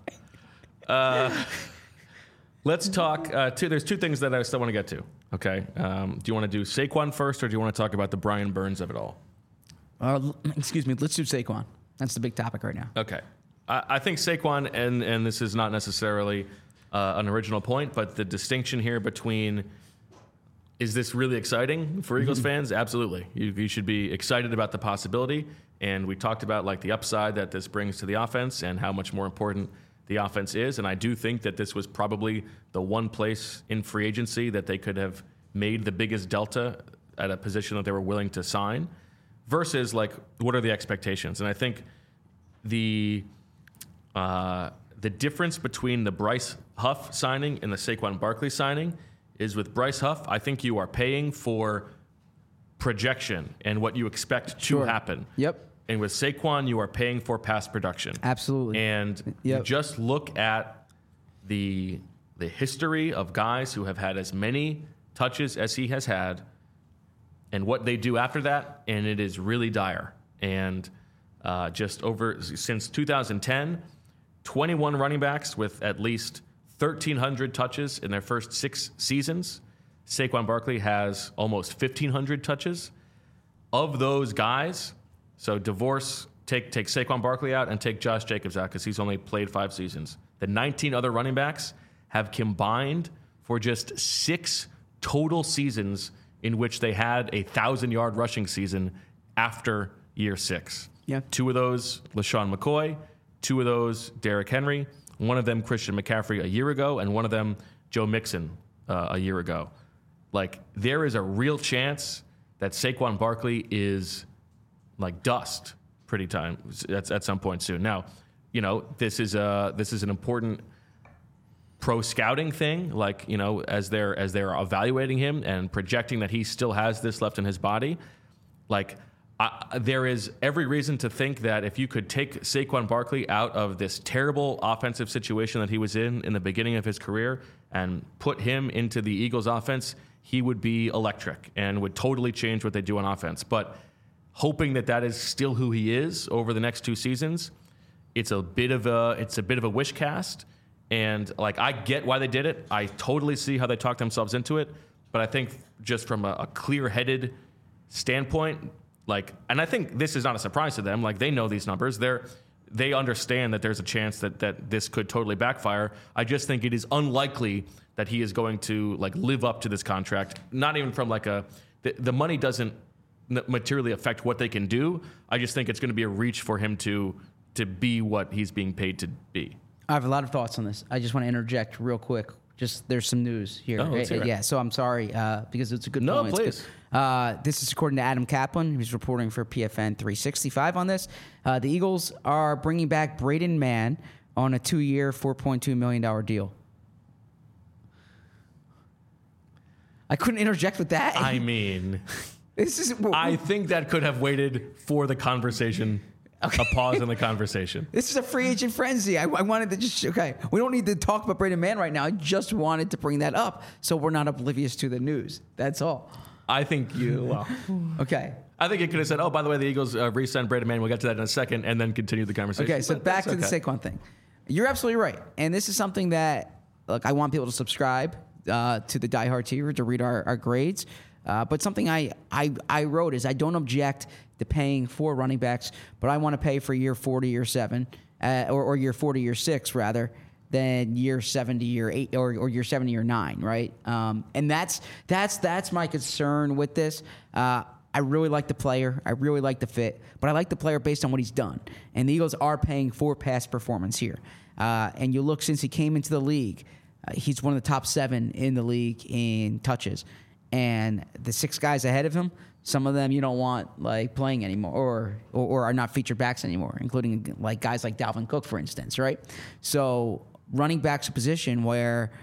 Let's talk. There's two things that I still want to get to. Okay. Do you want to do Saquon first, or do you want to talk about the Brian Burns of it all? Excuse me. Let's do Saquon. That's the big topic right now. Okay. I think Saquon, and this is not necessarily an original point, but the distinction here between, is this really exciting for Eagles fans? Absolutely. You should be excited about the possibility. And we talked about like the upside that this brings to the offense and how much more important the offense is. And I do think that this was probably the one place in free agency that they could have made the biggest delta at a position that they were willing to sign versus like, what are the expectations? And I think the difference between the Bryce Huff signing and the Saquon Barkley signing is with Bryce Huff, I think you are paying for projection and what you expect to happen. Yep. And with Saquon, you are paying for past production. Absolutely. And you just look at the history of guys who have had as many touches as he has had and what they do after that, and it is really dire. And since 2010, 21 running backs with at least 1,300 touches in their first 6 seasons. Saquon Barkley has almost 1,500 touches. Of those guys, so take Saquon Barkley out and take Josh Jacobs out because he's only played 5 seasons. The 19 other running backs have combined for just 6 total seasons in which they had a 1,000-yard rushing season after year 6. Yeah. 2 of those, LaShawn McCoy. 2 of those, Derrick Henry. 1 of them, Christian McCaffrey, a year ago. And 1 of them, Joe Mixon, a year ago. Like, there is a real chance that Saquon Barkley is like dust at some point soon. Now, this is an important pro scouting thing. Like, as they're evaluating him and projecting that he still has this left in his body, like, there is every reason to think that if you could take Saquon Barkley out of this terrible offensive situation that he was in the beginning of his career and put him into the Eagles offense, he would be electric and would totally change what they do on offense. But hoping that is still who he is over the next 2 seasons, it's a bit of a wish cast. And like, I get why they did it. I totally see how they talked themselves into it. But I think just from a clear-headed standpoint, like, and I think this is not a surprise to them. Like, they know these numbers. They understand that there's a chance that this could totally backfire. I just think it is unlikely that he is going to like live up to this contract. Not even from like the money doesn't materially affect what they can do. I just think it's going to be a reach for him to be what he's being paid to be. I have a lot of thoughts on this. I just want to interject real quick. Just there's some news here. Let's hear it. Yeah, so I'm sorry because it's a good point. No, please. This is according to Adam Kaplan, who's reporting for PFN 365 on this. The Eagles are bringing back Braden Mann on a 2-year, $4.2 million deal. I couldn't interject with that. I mean, I think that could have waited for the conversation. Okay. A pause in the conversation. This is a free agent frenzy. I wanted to we don't need to talk about Braden Mann right now. I just wanted to bring that up so we're not oblivious to the news. That's all. I think Okay. I think it could have said, oh, by the way, the Eagles re-signed Braden Mann. We'll get to that in a second, and then continue the conversation. Okay, so back to the Saquon thing. You're absolutely right. And this is something that, look, I want people to subscribe to the Die Hard Tier to read our grades. But something I wrote is I don't object to paying for running backs, but I want to pay for year 4 to year 7, or year 4 to year 6 rather than year 7 to year 8 or year 7 to year 9, right? And that's my concern with this. I really like the player. I really like the fit, but I like the player based on what he's done. And the Eagles are paying for past performance here. And you look since he came into the league, he's one of the top 7 in the league in touches. And the 6 guys ahead of him, some of them you don't want like playing anymore or are not featured backs anymore, including like guys like Dalvin Cook, for instance, right? So running back's a position where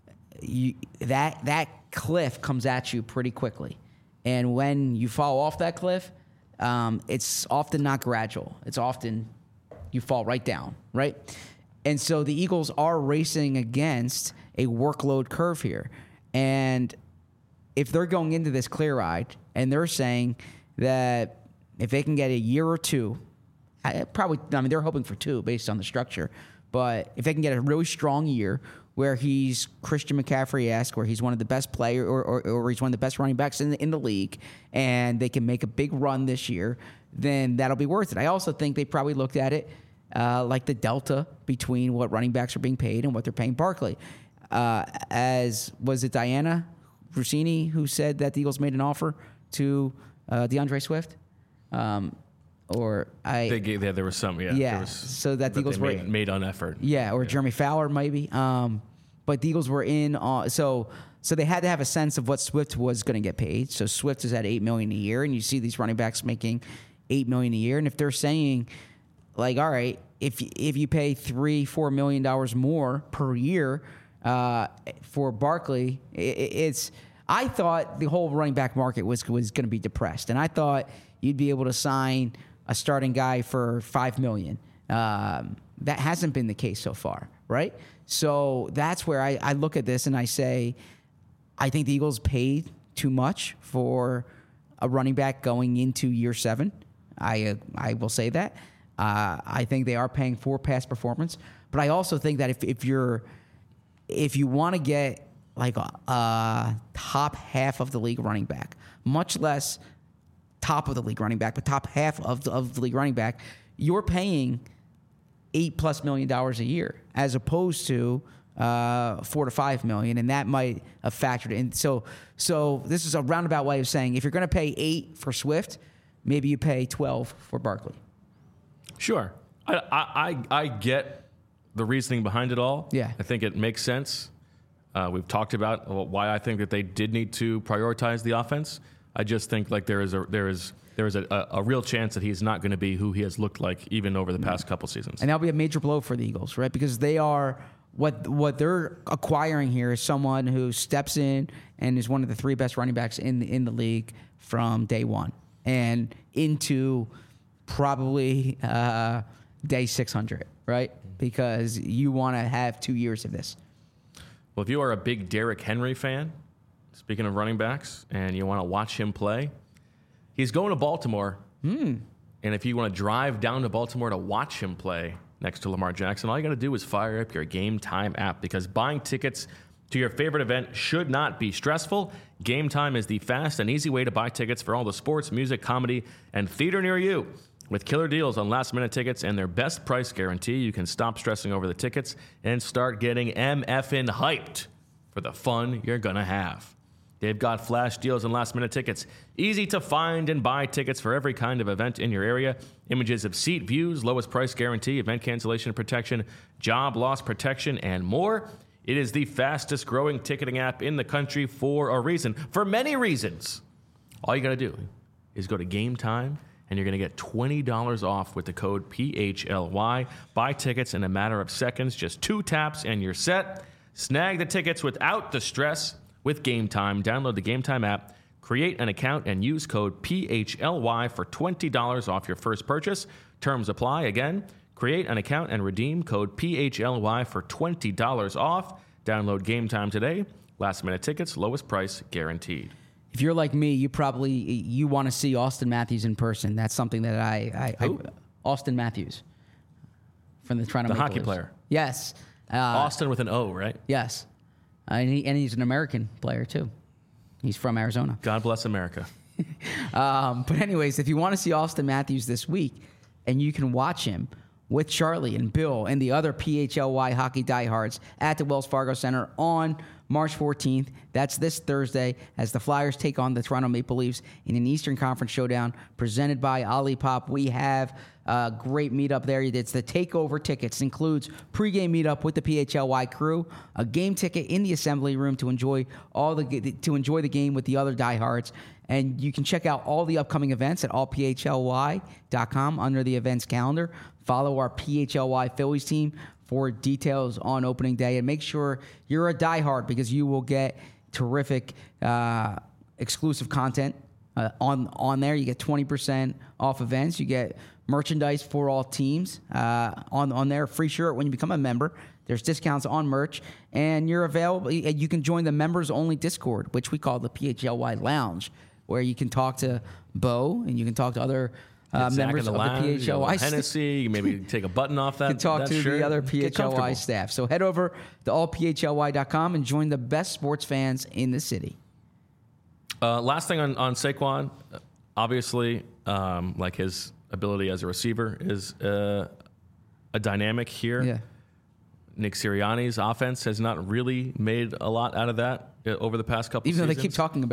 that cliff comes at you pretty quickly. And when you fall off that cliff, it's often not gradual. It's often you fall right down, right? And so the Eagles are racing against a workload curve here. And if they're going into this clear-eyed and they're saying that if they can get a year or 2, they're hoping for 2 based on the structure, but if they can get a really strong year where he's Christian McCaffrey-esque, where he's one of the best players or he's one of the best running backs in the league, and they can make a big run this year, then that'll be worth it. I also think they probably looked at it like the delta between what running backs are being paid and what they're paying Barkley. Was it Diana Rossini who said that the Eagles made an offer to DeAndre Swift? There was some, yeah. So that the Eagles made on effort. Yeah, or Jeremy Fowler maybe. But the Eagles were in on so they had to have a sense of what Swift was going to get paid. So Swift is at $8 million a year, and you see these running backs making $8 million a year. And if they're saying, like, all right, if you pay $3-4 million more per year, For Barkley, I thought the whole running back market was going to be depressed, and I thought you'd be able to sign a starting guy for $5 million. That hasn't been the case so far, right? So that's where I look at this and I say, I think the Eagles paid too much for a running back going into year 7. I will say that. I think they are paying for past performance, but I also think that if you want to get like a top half of the league running back, much less top of the league running back, but top half of the league running back, you're paying $8+ million a year as opposed to $4 to $5 million, and that might have factored in. So this is a roundabout way of saying if you're going to pay 8 for Swift, maybe you pay 12 for Barkley. Sure, I get the reasoning behind it all. Yeah, I think it makes sense. We've talked about why I think that they did need to prioritize the offense. I just think like there is a real chance that he's not going to be who he has looked like even over the past couple seasons. And that'll be a major blow for the Eagles, right? Because they are what they're acquiring here is someone who steps in and is one of the 3 best running backs in the league from day one and into probably day 600, right? Because you want to have 2 years of this. Well, if you are a big Derrick Henry fan, speaking of running backs, and you want to watch him play, he's going to Baltimore. And if you want to drive down to Baltimore to watch him play next to Lamar Jackson, all you got to do is fire up your Game Time app, because buying tickets to your favorite event should not be stressful. Game Time is the fast and easy way to buy tickets for all the sports, music, comedy, and theater near you. With killer deals on last-minute tickets and their best price guarantee, you can stop stressing over the tickets and start getting MFing hyped for the fun you're going to have. They've got flash deals on last-minute tickets. Easy to find and buy tickets for every kind of event in your area. Images of seat views, lowest price guarantee, event cancellation protection, job loss protection, and more. It is the fastest-growing ticketing app in the country for a reason. For many reasons. All you got to do is go to Game Time, and you're going to get $20 off with the code PHLY. Buy tickets in a matter of seconds. Just 2 taps and you're set. Snag the tickets without the stress with Game Time. Download the Game Time app, create an account, and use code PHLY for $20 off your first purchase. Terms apply. Again, create an account and redeem code PHLY for $20 off. Download Game Time today. Last minute tickets, lowest price guaranteed. If you're like me, you want to see Austin Matthews in person. That's something that I Austin Matthews from the Toronto Maple hockey Leafs. player. Yes. Austin with an O, right? Yes. And he's an American player, too. He's from Arizona. God bless America. But anyways, if you want to see Austin Matthews this week, and you can watch him with Charlie and Bill and the other PHLY hockey diehards at the Wells Fargo Center on March 14th. That's this Thursday as the Flyers take on the Toronto Maple Leafs in an Eastern Conference showdown presented by Olipop. We have a great meetup there. It's the Takeover Tickets. It includes pregame meetup with the PHLY crew, a game ticket in the assembly room to enjoy the game with the other diehards. And you can check out all the upcoming events at allphly.com under the events calendar. Follow our PHLY Phillies team for details on opening day. And make sure you're a diehard because you will get terrific exclusive content on there. You get 20% off events. You get merchandise for all teams on there. Free shirt when you become a member. There's discounts on merch. And you're available. You can join the members-only Discord, which we call the PHLY Lounge, where you can talk to Bo and you can talk to other members of the PHLY Hennessy, maybe take a button off that. You can talk to shirt, the other PHLY staff. So head over to allphly.com and join the best sports fans in the city. Last thing on Saquon, obviously, like his ability as a receiver is a dynamic here. Yeah. Nick Sirianni's offense has not really made a lot out of that over the past couple seasons. Even though they keep talking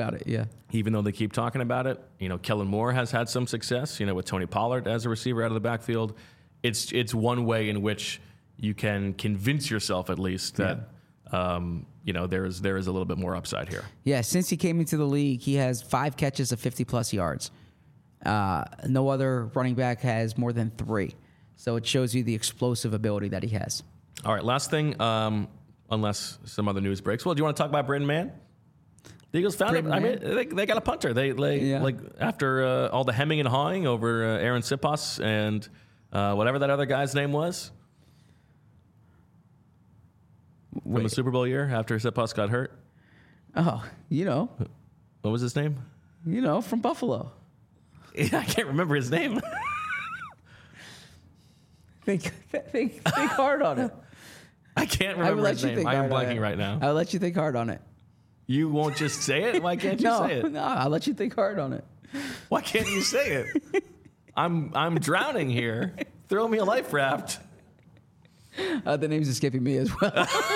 about it, You know, Kellen Moore has had some success, with Tony Pollard as a receiver out of the backfield. It's one way in which you can convince yourself at least that, there is a little bit more upside here. Yeah, since he came into the league, he has 5 catches of 50-plus yards. No other running back has more than 3. So it shows you the explosive ability that he has. All right, last thing. unless some other news breaks. Well, do you want to talk about Brendan Mann? The Eagles found him. Brendan I mean, they got a punter. Like after all the hemming and hawing over Aaron Siposs and whatever that other guy's name was from the Super Bowl year after Siposs got hurt. Oh, What was his name? From Buffalo. Yeah, I can't remember his name. Think hard on it. I can't remember his name. I am blanking right now. I'll let you think hard on it. You won't just say it? Why can't you say it? No, I'll let you think hard on it. Why can't you say it? I'm drowning here. Throw me a life raft. The name's escaping me as well.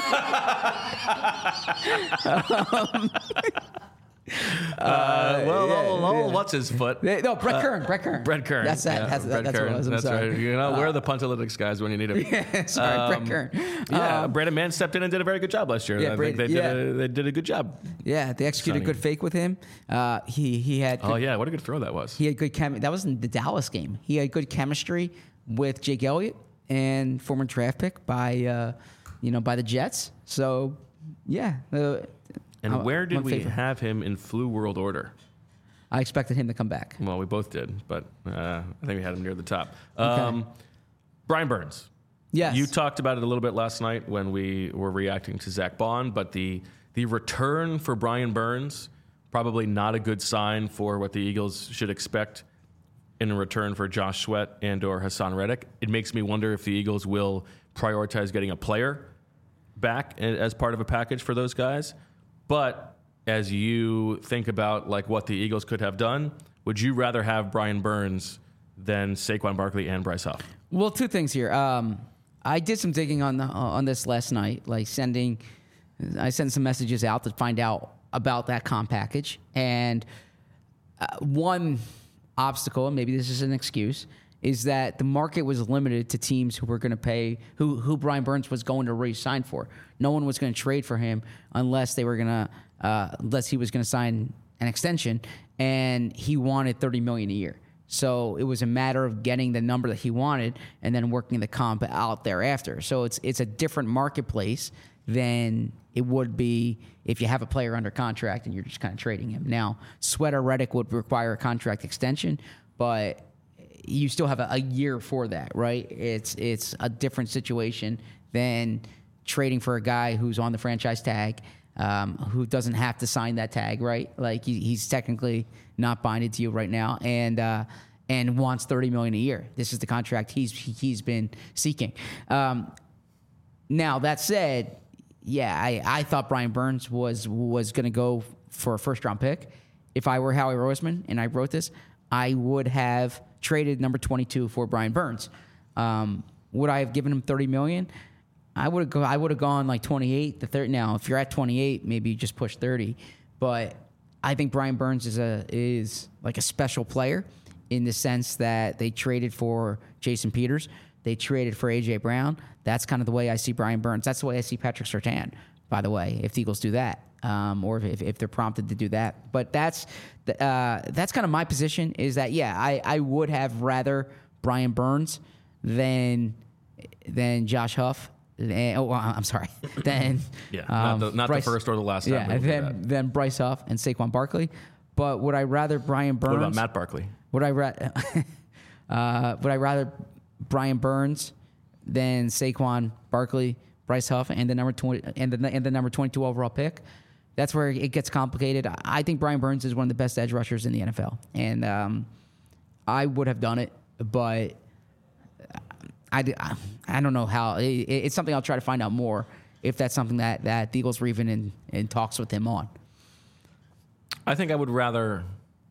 What's his foot? No, Brett Kern. Brett Kern. That's Brett what it was. I'm That's sorry. right. We're the Puntalytics guys when you need them. Yeah, sorry, Brett Kern. Yeah, Brendan Mann stepped in and did a very good job last year. Yeah, I think they did a good job. Yeah, they executed a good fake with him. He had. What a good throw that was. He had good that was in the Dallas game. He had good chemistry with Jake Elliott and former draft pick by the Jets. So yeah. And where did we have him in flu world order? I expected him to come back. Well, we both did, but I think we had him near the top. Brian Burns. Yes. You talked about it a little bit last night when we were reacting to Zach Bond, but the return for Brian Burns, probably not a good sign for what the Eagles should expect in return for Josh Sweat and or Hassan Reddick. It makes me wonder if the Eagles will prioritize getting a player back as part of a package for those guys. But as you think about like what the Eagles could have done, would you rather have Brian Burns than Saquon Barkley and Bryce Huff? Well, two things here. I did some digging on this last night, like I sent some messages out to find out about that comp package. And one obstacle, and maybe this is an excuse, is that the market was limited to teams who were going to pay, who Brian Burns was going to re-sign for. No one was going to trade for him unless he was going to sign an extension, and he wanted $30 million a year. So it was a matter of getting the number that he wanted and then working the comp out thereafter. So it's a different marketplace than it would be if you have a player under contract and you're just kind of trading him. Now, Sweat or Reddick would require a contract extension, but you still have a year for that, right? It's a different situation than trading for a guy who's on the franchise tag, who doesn't have to sign that tag, right? Like he's technically not binded to you right now, and wants $30 million a year. This is the contract he's been seeking. Now that said, yeah, I thought Brian Burns was going to go for a first round pick. If I were Howie Roseman and I wrote this, I would have traded number 22 for Brian Burns. Would I have given him $30 million? I would have gone like 28 to 30. Now, if you're at 28, maybe you just push 30. But I think Brian Burns is like a special player in the sense that they traded for Jason Peters. They traded for A.J. Brown. That's kind of the way I see Brian Burns. That's the way I see Patrick Surtain, by the way, if the Eagles do that, or if they're prompted to do that. But that's kind of my position is that, yeah, I would have rather Brian Burns than Josh Huff. I'm sorry. Then not Bryce, the first or the last time. Then Bryce Huff and Saquon Barkley. But would I rather Brian Burns? What about Matt Barkley? Would I rather Brian Burns than Saquon Barkley, Bryce Huff, and the number 20 and the number 22 overall pick? That's where it gets complicated. I think Brian Burns is one of the best edge rushers in the NFL, and I would have done it, but I don't know how. It's something I'll try to find out more if that's something that the Eagles were even in talks with him on. I think I would rather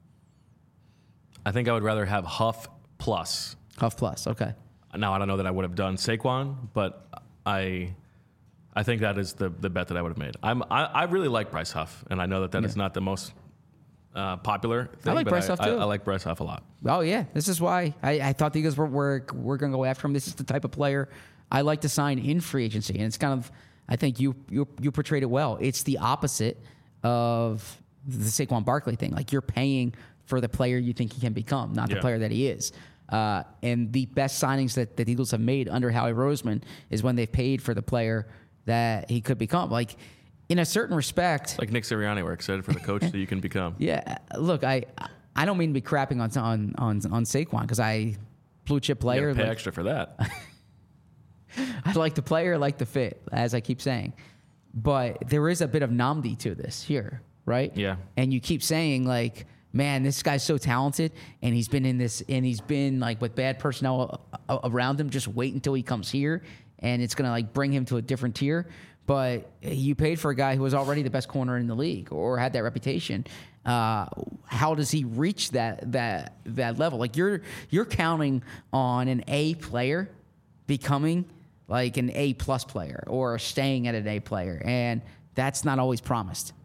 have Huff plus. Huff plus, okay. Now I don't know that I would have done Saquon, but I think that is the bet that I would have made. I really like Bryce Huff, and I know that is not the most popular thing. I like Bryce Huff too. I like Bryce Huff a lot. Oh yeah, this is why I thought the Eagles were going to go after him. This is the type of player I like to sign in free agency, and it's kind of, I think you portrayed it well. It's the opposite of the Saquon Barkley thing. Like, you're paying for the player you think he can become, not the player that he is. And the best signings that the Eagles have made under Howie Roseman is when they've paid for the player that he could become. Like, in a certain respect, Like Nick Sirianni, we're excited for the coach that you can become. yeah. Look, I don't mean to be crapping on Saquon because blue chip You player. gotta pay like, extra for that. I like the player, like the fit, as I keep saying. But there is a bit of Namdi to this here, right? Yeah. And you keep saying, like, man, this guy's so talented, and he's been like with bad personnel around him. Just wait until he comes here, and it's gonna like bring him to a different tier. But you paid for a guy who was already the best corner in the league or had that reputation. How does he reach that level? Like you're counting on an A player becoming like an A+ player or staying at an A player, and that's not always promised.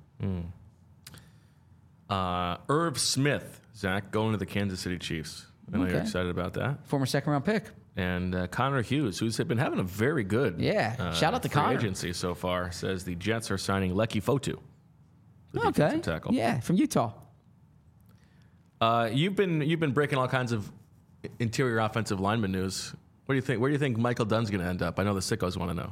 Irv Smith, Zach, going to the Kansas City Chiefs. I know you're Okay. excited about that. Former second-round pick. And Connor Hughes, who's been having a very good Shout out to free Connor. agency so far, says the Jets are signing Lecky Fotu. the Okay. defensive tackle. Yeah, from Utah. You've been breaking all kinds of interior offensive lineman news. What do you think? Where do you think Michael Dunn's going to end up? I know the sickos want to know.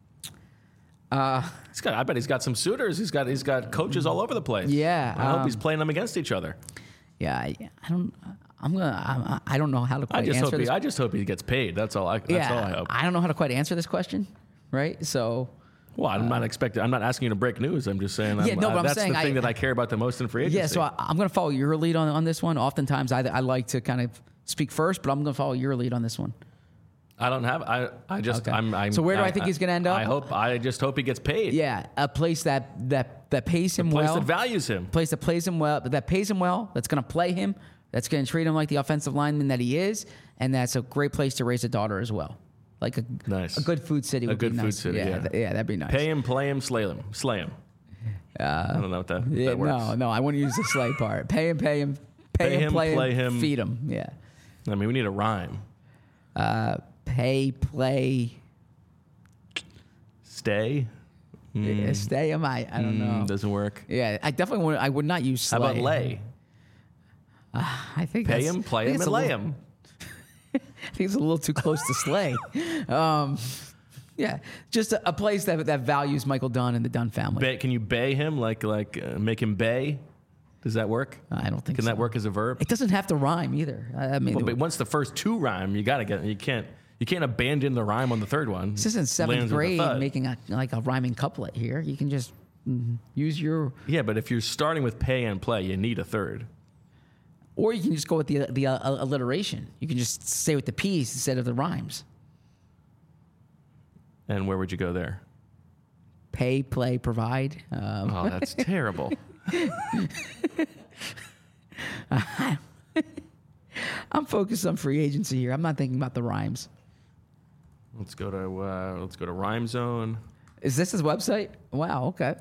I bet he's got some suitors. He's got coaches all over the place. Yeah, I hope he's playing them against each other. Yeah, I don't. I don't know how to quite answer this. I just hope he gets paid. That's all I hope. I don't know how to quite answer this question, right? So. Well, I'm not asking you to break news. I'm just saying. That's the thing that I care about the most in free agency. Yeah, so I'm going to follow your lead on this one. Oftentimes, I like to kind of speak first, but I'm going to follow your lead on this one. I don't have. I just. Okay. So where do I think he's going to end up? I just hope he gets paid. Yeah, a place that pays him well. A place that values him. Place that plays him well. That pays him well. That's going to play him. That's going to treat him like the offensive lineman that he is, and that's a great place to raise a daughter as well. Like a good food city would be nice. A good food city, yeah. That'd be nice. Pay him, play him, slay him. I don't know what that works. No, I wouldn't use the slay part. Pay him, play him, play him, feed him. Yeah. I mean, we need a rhyme. Pay, play, stay. Stay. I don't know. Doesn't work. Yeah, I would not use slay. How about lay? I think pay him, play him, and lay him. I think it's a little too close to slay. Yeah, just a place that values Michael Dunn and the Dunn family. Can you bay him like make him bay? Does that work? I don't think. Can so. that work as a verb? It doesn't have to rhyme either. I mean, but once the first two rhyme, you gotta get. You can't abandon the rhyme on the third one. This isn't seventh Lands with a grade thud. making a rhyming couplet here. You can just use your. Yeah, but if you're starting with pay and play, you need a third. Or you can just go with the alliteration. You can just stay with the P's instead of the rhymes. And where would you go there? Pay, play, provide. Oh, that's terrible. I'm focused on free agency here. I'm not thinking about the rhymes. Let's go to Rhyme Zone. Is this his website? Wow. Okay.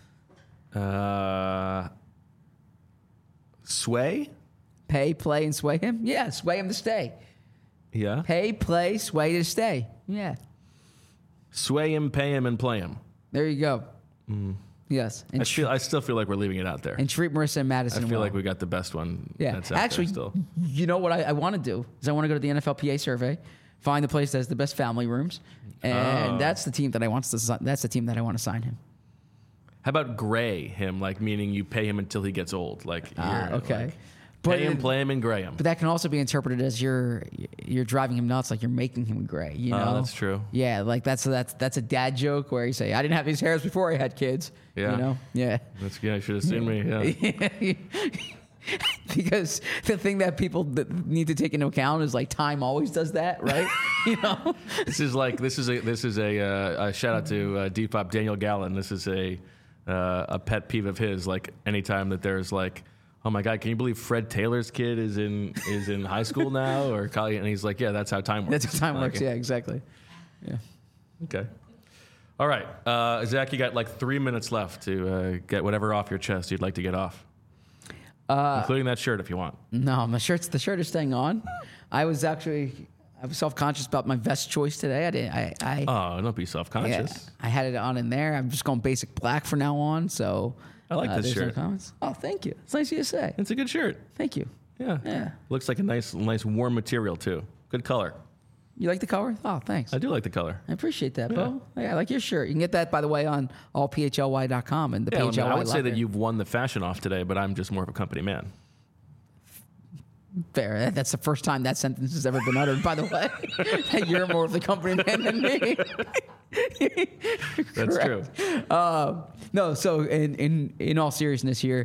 Sway? Pay, play, and sway him. Yeah, sway him to stay. Yeah. Pay, play, sway to stay. Yeah. Sway him, pay him, and play him. There you go. Yes. And I still feel like we're leaving it out there. and treat Marissa and Madison. I feel well. like we got the best one. Yeah. That's out Actually, there still. you know what I want to do is I want to go to the NFLPA survey, find the place that has the best family rooms, and that's the team that I want to. That's the team that I want to sign him. How about gray him, like meaning you pay him until he gets old, like Okay. like, But pay him, play him, and gray him. But that can also be interpreted as you're driving him nuts, like you're making him gray. You know, that's true. Yeah, like that's a dad joke where you say, "I didn't have these hairs before I had kids." Yeah. You know, yeah. You should have seen me. Yeah. Because the thing that people need to take into account is like time always does that, right? You know, This is a shout out to Depop Daniel Gallen. This is a pet peeve of his. Like anytime that there's like, oh my God, can you believe Fred Taylor's kid is in high school now or college? And he's like, yeah, that's how time works. that's how time works. Yeah, exactly. Yeah. Okay. All right, Zach, you got like 3 minutes left to get whatever off your chest you'd like to get off, including that shirt if you want. No, the shirt is staying on. I was self-conscious about my vest choice today. Oh, don't be self-conscious. Yeah, I had it on in there. I'm just going basic black from now on. So I like this there's no shirt. comments. Oh, thank you. It's nice of you to say. It's a good shirt. Thank you. Yeah. Yeah. Looks like a nice warm material too. Good color. You like the color? Oh, thanks. I do like the color. I appreciate that, Bo. Yeah, I like your shirt. You can get that, by the way, on allphly.com and the Yeah, PHLY I would say locker. that you've won the fashion off today, but I'm just more of a company man. Fair. That's the first time that sentence has ever been uttered, by the way. That you're more of the company man than me. That's true. No, so in all seriousness here,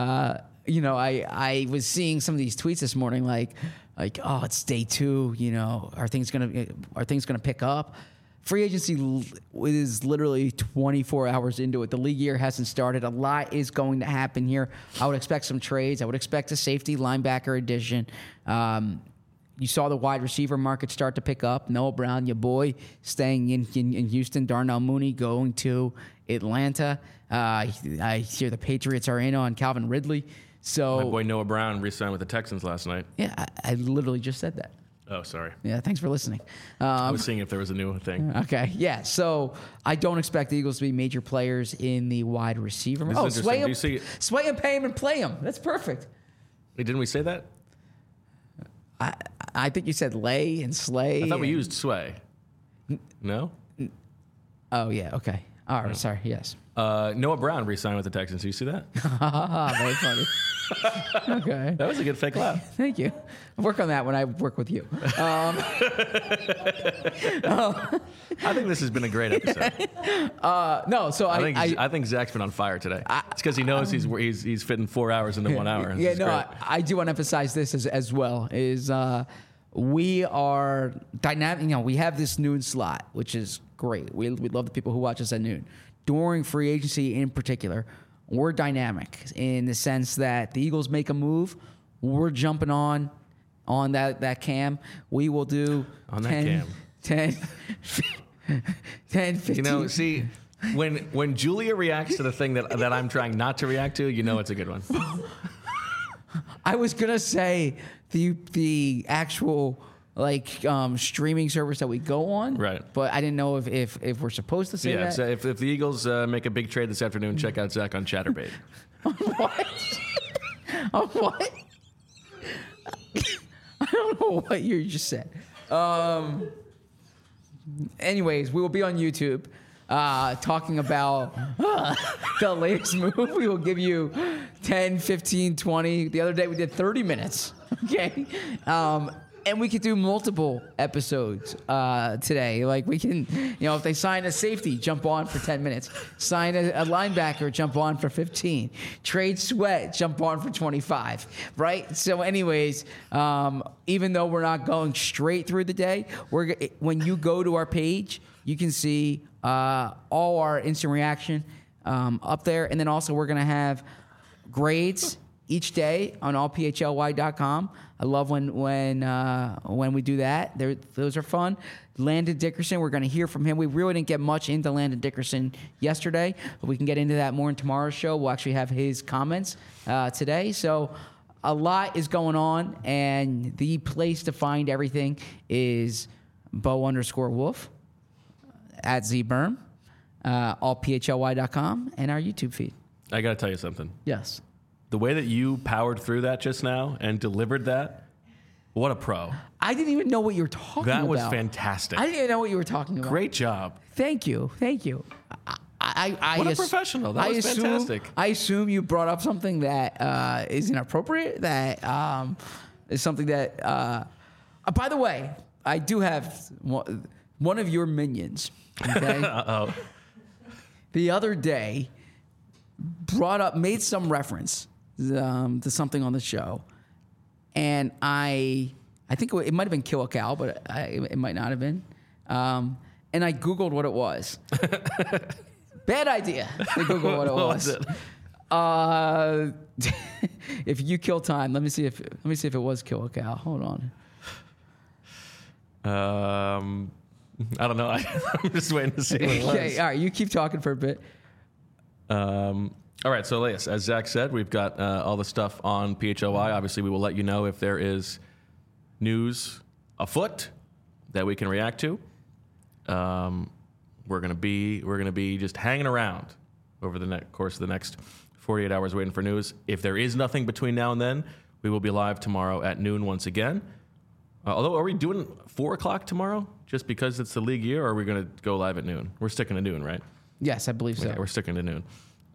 I was seeing some of these tweets this morning, like, oh, it's day 2. Are things gonna pick up? Free agency is literally 24 hours into it. The league year hasn't started. A lot is going to happen here. I would expect some trades. I would expect a safety linebacker addition. You saw the wide receiver market start to pick up. Noah Brown, your boy, staying in Houston. Darnell Mooney going to Atlanta. I hear the Patriots are in on Calvin Ridley. So My boy Noah Brown re-signed with the Texans last night. yeah, I literally just said that. Oh, sorry. Yeah, thanks for listening. I was seeing if there was a new thing. Okay, yeah. So I don't expect the Eagles to be major players in the wide receiver. This is sway interesting. him, Do you see- sway him, pay him, and play him. That's perfect. Wait, didn't we say that? I think you said lay and slay. I thought we and- used sway. No? Oh yeah. Okay. All right. Sorry. Yes. Noah Brown re-signed with the Texans. Do you see that? Very funny. Okay. That was a good fake laugh. Thank you. I'll work on that when I work with you. I think this has been a great episode. No. So I think Zach's been on fire today. It's because he knows he's fitting 4 hours into 1 hour. Yeah, This is no, great. I do want to emphasize this as well. Is we are dynamic. We have this noon slot, which is great. We love the people who watch us at noon. During free agency, in particular, we're dynamic in the sense that the Eagles make a move, we're jumping on that cam. We will do On that cam. 10, 15. You know, see, when Julia reacts to the thing that I'm trying not to react to, you know it's a good one. I was gonna say the actual streaming service that we go on, Right. But I didn't know if we're supposed to say Yeah, that. so if the Eagles make a big trade this afternoon, check out Zach on Chatterbait. What? Oh, what? I don't know what you just said. Anyways, we will be on YouTube talking about the latest move. We will give you 10, 15, 20. The other day we did 30 minutes. Okay. And we could do multiple episodes today. Like we can, if they sign a safety, jump on for 10 minutes. Sign a linebacker, jump on for 15. Trade Sweat, jump on for 25. Right? So anyways, even though we're not going straight through the day, when you go to our page, you can see all our instant reaction up there. And then also we're going to have grades each day on allphly.com. I love when we do that. Those are fun. Landon Dickerson, we're going to hear from him. We really didn't get much into Landon Dickerson yesterday, but we can get into that more in tomorrow's show. We'll actually have his comments today. So a lot is going on, and the place to find everything is Bo_Wolf at ZBerm, allphly.com, and our YouTube feed. I got to tell you something. Yes. The way that you powered through that just now and delivered that, what a pro. I didn't even know what you were talking about. That was fantastic. I didn't even know what you were talking about. Great job. Thank you. What a professional. That was fantastic. I assume you brought up something that is inappropriate, that is something that... by the way, I do have one of your minions, okay? Uh-oh. The other day made some reference to something on the show, and I think it might have been Kill a Cow, but it might not have been. And I Googled what it was. Bad idea to Google what it was. If you kill time, let me see if it was Kill a Cow. Hold on. I don't know. I'm just waiting to see what it was. Okay, all right, you keep talking for a bit. All right, so Elias, as Zach said, we've got all the stuff on PHLY. Obviously, we will let you know if there is news afoot that we can react to. We're gonna be just hanging around over the course of the next 48 hours waiting for news. If there is nothing between now and then, we will be live tomorrow at noon once again. Although, are we doing 4 o'clock tomorrow just because it's the league year, or are we going to go live at noon? We're sticking to noon, right? Yes, I believe so. Yeah, we're sticking to noon.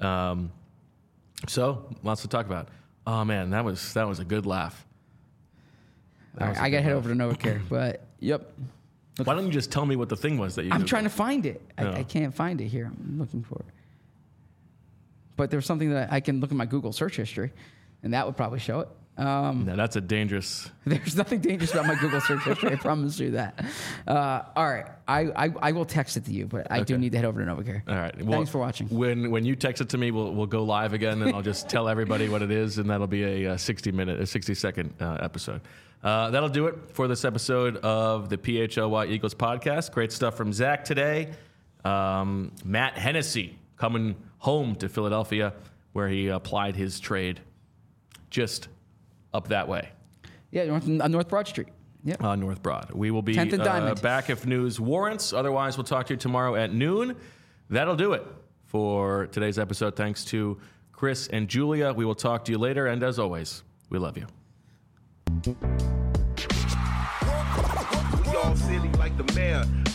So, lots to talk about. Oh, man, that was a good laugh. All right, I got to head over to NovaCare, but yep. Why don't you just tell me what the thing was that you I'm Googled? trying to find it. No. I can't find it here. I'm looking for it. But there's something that I can look at my Google search history, and that would probably show it. No, that's a dangerous... There's nothing dangerous about my Google search history. I promise you that. All right. I will text it to you, but I do need to head over to NovaCare. All right. Well, thanks for watching. When you text it to me, we'll go live again, and I'll just tell everybody what it is, and that'll be a 60-second episode. That'll do it for this episode of the PHLY Eagles podcast. Great stuff from Zach today. Matt Hennessy coming home to Philadelphia, where he applied his trade just up that way. Yeah, on North Broad Street. Yep. North Broad. We will be 10th and Diamond. back if news warrants. Otherwise, we'll talk to you tomorrow at noon. That'll do it for today's episode. Thanks to Chris and Julia. We will talk to you later. And as always, we love you. We all silly like the mayor.